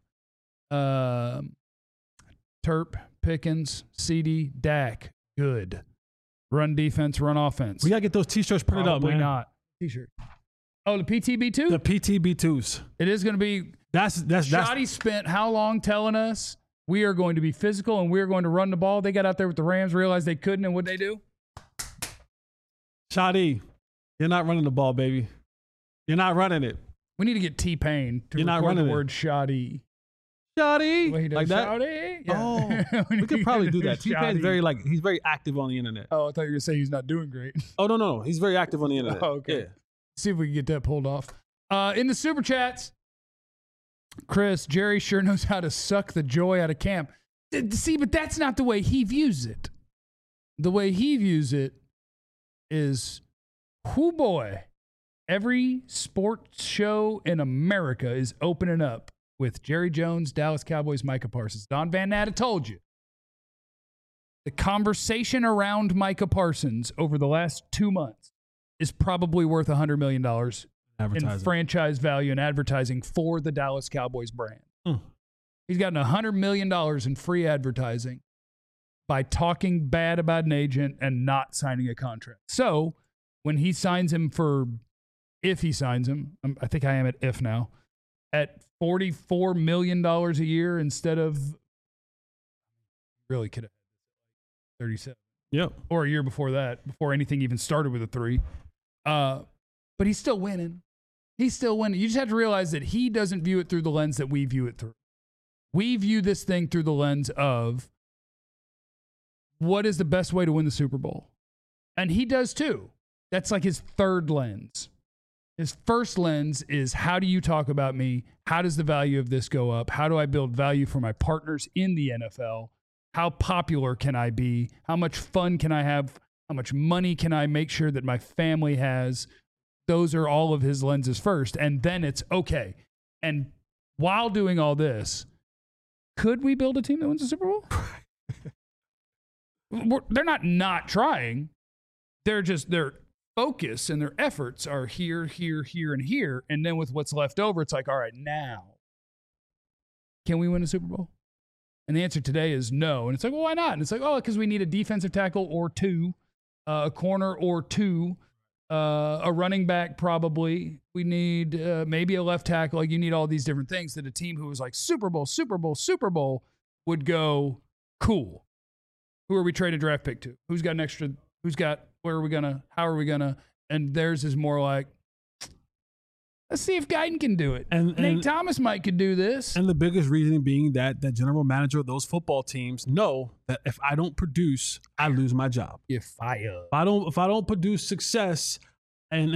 Terp, Pickens, CD, Dak, good. Run defense, run offense. We got to get those T-shirts printed up, man. Probably not. T-shirt. Oh, the PTB2? The PTB2s. It is going to be. That's. Shoddy spent how long telling us we are going to be physical and we are going to run the ball? They got out there with the Rams, realized they couldn't, and what'd they do? Shoddy, you're not running the ball, baby. You're not running it. We need to get T-Pain to You're not record running the it. word shoddy. Shoddy. Like that? Shoddy? Yeah. Oh, we could probably do that. T-Pain's he's very active on the internet. Oh, I thought you were going to say he's not doing great. Oh, no. He's very active on the internet. Oh, okay. Yeah. See if we can get that pulled off. In the super chats, Chris, Jerry sure knows how to suck the joy out of camp. See, but that's not the way he views it. The way he views it is, whoo boy, every sports show in America is opening up with Jerry Jones, Dallas Cowboys, Micah Parsons. Don Van Natta told you. The conversation around Micah Parsons over the last 2 months is probably worth $100 million in franchise value and advertising for the Dallas Cowboys brand. He's gotten $100 million in free advertising by talking bad about an agent and not signing a contract. So when he signs him if he signs him, I think I am at if now, at $44 million a year instead of really could have 37. Yep. Or a year before that, before anything even started with a 3. But he's still winning. He's still winning. You just have to realize that he doesn't view it through the lens that we view it through. We view this thing through the lens of what is the best way to win the Super Bowl. And he does too. That's like his third lens. His first lens is, how do you talk about me? How does the value of this go up? How do I build value for my partners in the NFL? How popular can I be? How much fun can I have? How much money can I make sure that my family has? Those are all of his lenses first. And then it's okay. And while doing all this, could we build a team that wins the Super Bowl? They're not trying. They're just, their focus and their efforts are here, here, here, and here. And then with what's left over, it's like, all right, now, can we win a Super Bowl? And the answer today is no. And it's like, well, why not? And it's like, oh, because we need a defensive tackle or 2, a corner or 2, a running back probably. We need maybe a left tackle. Like, you need all these different things that a team who was like Super Bowl, Super Bowl, Super Bowl would go, cool. Who are we trading draft pick to? Who's got an extra? Who's got, where are we going to, how are we going to? And theirs is more like, let's see if Guyton can do it. And Nate Thomas might could do this. And the biggest reason being that the general manager of those football teams know that if I don't produce, I lose my job. You're fired. If I don't produce success and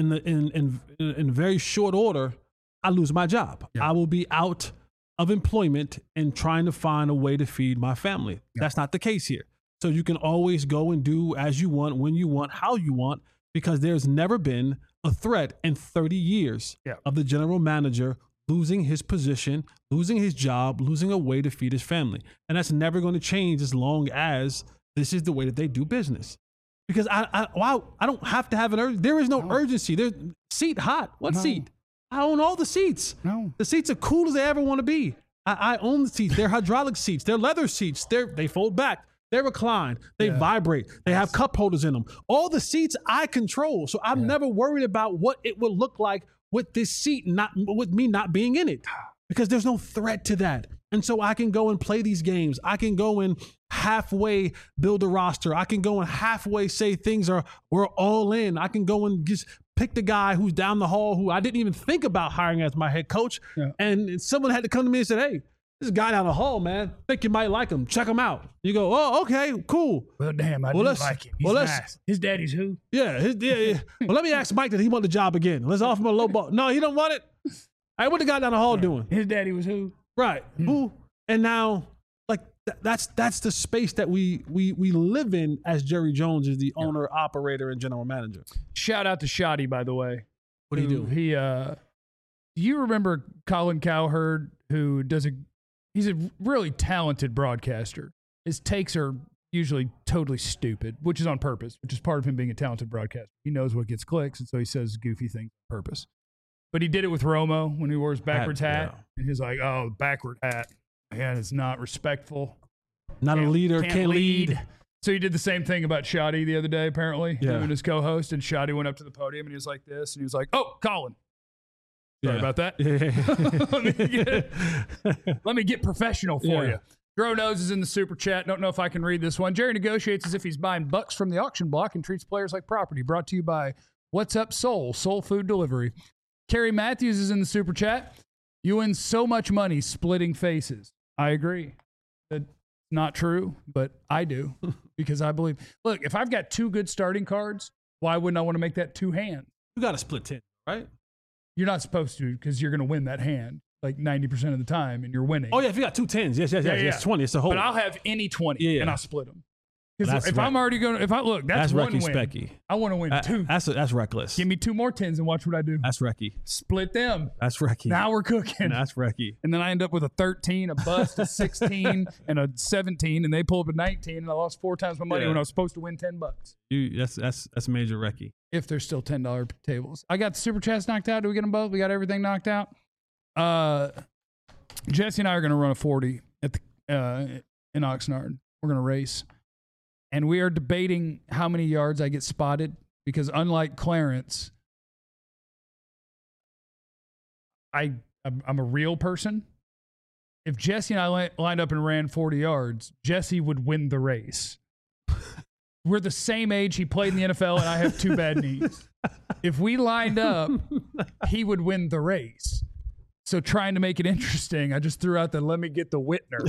in very short order, I lose my job. Yeah. I will be out of employment and trying to find a way to feed my family. Yeah. That's not the case here. So you can always go and do as you want, when you want, how you want, because there's never been a threat in 30 years of the general manager losing his position, losing his job, losing a way to feed his family. And that's never going to change as long as this is the way that they do business. Because I don't have to have there is no urgency. There's seat hot. What seat? I own all the seats. No. The seats are cool as they ever want to be. I own the seats. They're hydraulic seats. They're leather seats. They fold back. They recline. They vibrate. They have cup holders in them. All the seats I control. So I'm never worried about what it will look like with this seat, with me not being in it, because there's no threat to that. And so I can go and play these games. I can go and halfway build a roster. I can go and halfway say we're all in. I can go and just pick the guy who's down the hall who I didn't even think about hiring as my head coach. Yeah. And someone had to come to me and say, hey, this guy down the hall, man, think you might like him. Check him out. You go, oh, okay, cool. Well, damn, I do like him. He's nice. His daddy's who? Yeah. Well, let me ask Mike, did he want the job again? Let's offer him a low ball. No, he don't want it. Hey, what the guy down the hall doing? His daddy was who? Right. Who? And now, like, that's the space that we live in as Jerry Jones is the owner, operator, and general manager. Shout out to Shoddy, by the way. What do you do? Do you remember Colin Cowherd, who he's a really talented broadcaster. His takes are usually totally stupid, which is on purpose, which is part of him being a talented broadcaster. He knows what gets clicks, and so he says goofy things on purpose. But he did it with Romo when he wore his backwards hat. And he's like, oh, backward hat. Man, it's not respectful. Not a leader, can't lead. So he did the same thing about Shoddy the other day, apparently, him and his co-host. And Shoddy went up to the podium, and he was like this. And he was like, oh, Colin. Sorry about that. Let me get professional for you. Dro Knows is in the super chat. Don't know if I can read this one. Jerry negotiates as if he's buying bucks from the auction block and treats players like property. Brought to you by What's Up Soul Food Delivery. Carrie Matthews is in the super chat. You win so much money splitting faces. I agree. That's not true, but I do because I believe. Look, if I've got 2 good starting cards, why wouldn't I want to make that 2 hands? You got to split 10, right? You're not supposed to because you're going to win that hand like 90% of the time and you're winning. Oh, yeah. If you got 2 10s, yes. It's 20. It's a whole. But I'll have any 20 and I'll split them. Because if I'm already going to, that's one win. Specky. I want to win 2. That's reckless. Give me 2 more 10s and watch what I do. That's Recky. Split them. That's Recky. Now we're cooking. That's Recky. And then I end up with a 13, a bust, a 16, and a 17, and they pull up a 19, and I lost 4 times my money when I was supposed to win $10. That's major Recky. If there's still $10 tables. I got the super chats knocked out. Do we get them both? We got everything knocked out. Jesse and I are going to run a 40 at the in Oxnard. We're going to race. And we are debating how many yards I get spotted because unlike Clarence, I'm a real person if Jesse and I lined up and ran 40 yards, Jesse would win the race. We're the same age. He played in the NFL, and I have 2 bad knees. If we lined up, he would win the race. So trying to make it interesting, I just threw out the let me get the Whitner,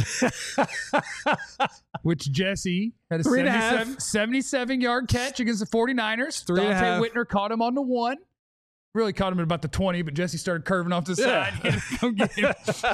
which Jesse had a 77-yard catch against the 49ers. Dante Whitner caught him on the 1. Really caught him at about the 20, but Jesse started curving off the side. He had to come get him.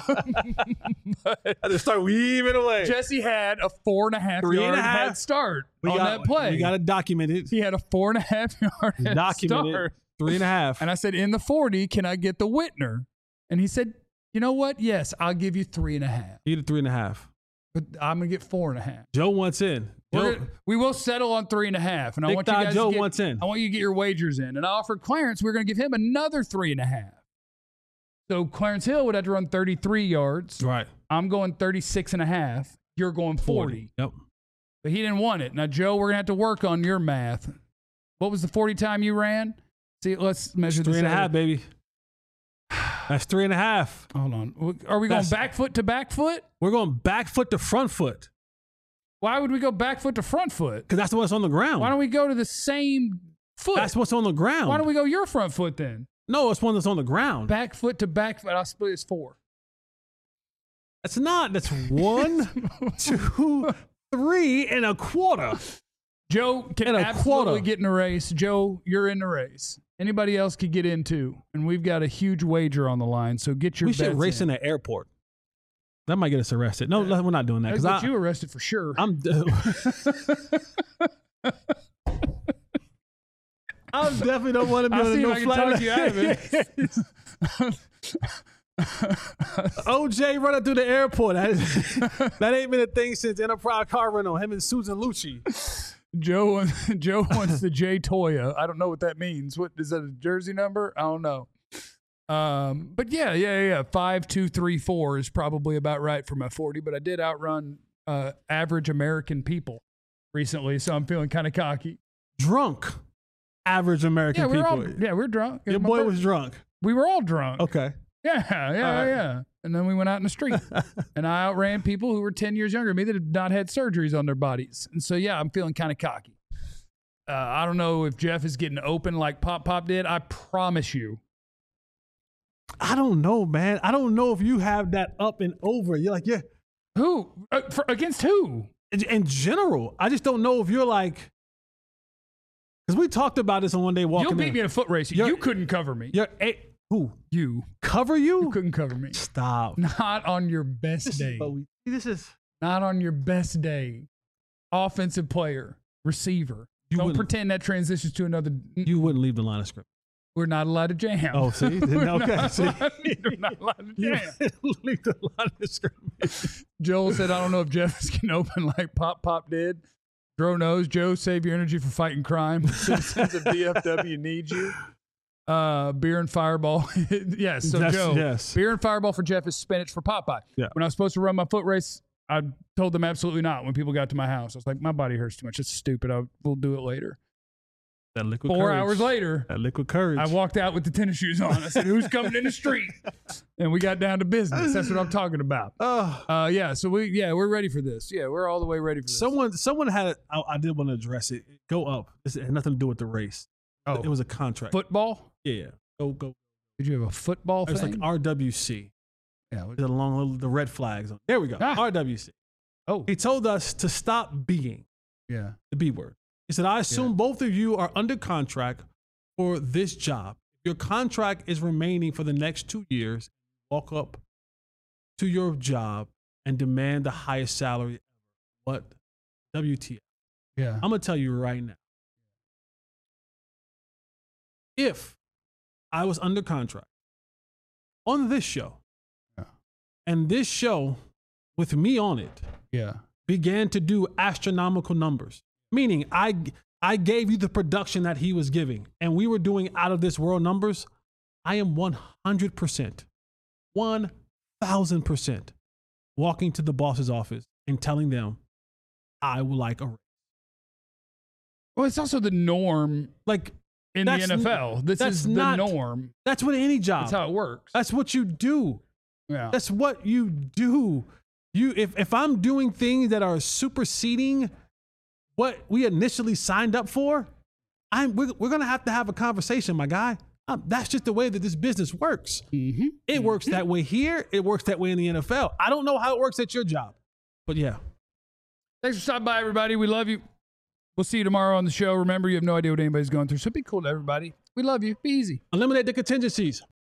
I just start weaving away. Jesse had a 4.5-yard head start on that play. We got to document it. He had a 4.5-yard head start. 3.5. And I said, in the 40, can I get the Whitner? And he said, you know what? Yes, I'll give you 3.5. You get a 3.5. But I'm going to get 4.5. Joe wants in. We will settle on 3.5. And I want you guys Joe wants in. I want you to get your wagers in. And I offered Clarence, we're going to give him another 3.5. So Clarence Hill would have to run 33 yards. Right. I'm going 36.5. You're going 40. Yep. But he didn't want it. Now, Joe, we're going to have to work on your math. What was the 40 time you ran? See, let's measure this. 3.5, baby. That's 3.5. Hold on. Are we going back foot to back foot? We're going back foot to front foot. Why would we go back foot to front foot? Because that's what's on the ground. Why don't we go to the same foot? That's what's on the ground. Why don't we go your front foot then? No, it's one that's on the ground. Back foot to back foot. I'll split it as 4. That's not. That's 1, 2, 3.25. Joe can absolutely get in a race. Joe, you're in the race. Anybody else could get in too. And we've got a huge wager on the line. So get your bets in. We should race in the airport. That might get us arrested. No, we're not doing that. I'll get you arrested for sure. I definitely don't want to be on no flight. Talk you out of it. OJ running through the airport. That ain't been a thing since Enterprise Car Rental. Him and Susan Lucci. Joe wants the J Toya. I don't know what that means. What is that, a jersey number? I don't know. But yeah. 5, 2, 3, 4 is probably about right for my 40. But I did outrun average American people recently, so I'm feeling kind of cocky. Drunk, average American people. We're drunk. Your boy was drunk. We were all drunk. Okay. Yeah. And then we went out in the street, and I outran people who were 10 years younger than me that have not had surgeries on their bodies. And so, yeah, I'm feeling kind of cocky. I don't know if Jeff is getting open like Pop did. I promise you. I don't know, man. I don't know if you have that up and over. You're like, yeah. Who? Against who? In general. I just don't know if you're like, because we talked about this on One Day Walking. You'll beat me in a foot race. You couldn't cover me. Who? You. Cover you? You couldn't cover me. Stop. Not on your best day. Not on your best day. Offensive player, receiver. Don't pretend that transitions to another. You wouldn't leave the line of scrimmage. We're not allowed to jam. Oh, see? Okay. We're not allowed to jam. Leave the line of scrimmage. Joel said, I don't know if Jeff is getting open like Pop did. Dro knows. Joe, save your energy for fighting crime. Citizens of DFW need you. Beer and Fireball. Yes. So Joe, yes. Beer and Fireball for Jeff is spinach for Popeye. Yeah. When I was supposed to run my foot race, I told them absolutely not. When people got to my house, I was like, my body hurts too much. It's stupid. We'll do it later. That liquid 4 courage. hours later, that liquid courage. I walked out with the tennis shoes on. I said, who's coming in the street? And we got down to business. That's what I'm talking about. Yeah. So we're ready for this. Yeah, we're all the way ready for this. Someone had, I did want to address it. Go up. It had nothing to do with the race. Oh, it was a contract. Football? Yeah. Go. Did you have a football thing? It's like RWC. Yeah. Along the red flags. There we go. RWC. Oh. He told us to stop being. Yeah. The B word. He said, I assume both of you are under contract for this job. Your contract is remaining for the next 2 years. Walk up to your job and demand the highest salary ever. What? WTF. Yeah. I'm going to tell you right now. If I was under contract on this show, and this show with me on it began to do astronomical numbers, meaning I gave you the production that he was giving, and we were doing out of this world numbers, I am 100%, 1,000% walking to the boss's office and telling them I would like a raise. Well, it's also the norm. Like, in the NFL, this is the norm. That's what any job. That's how it works. That's what you do. Yeah. That's what you do. If I'm doing things that are superseding what we initially signed up for, we're going to have a conversation, my guy. That's just the way that this business works. Mm-hmm. It works that way here. It works that way in the NFL. I don't know how it works at your job, but yeah. Thanks for stopping by, everybody. We love you. We'll see you tomorrow on the show. Remember, you have no idea what anybody's going through, so be cool to everybody. We love you. Be easy. Eliminate the contingencies.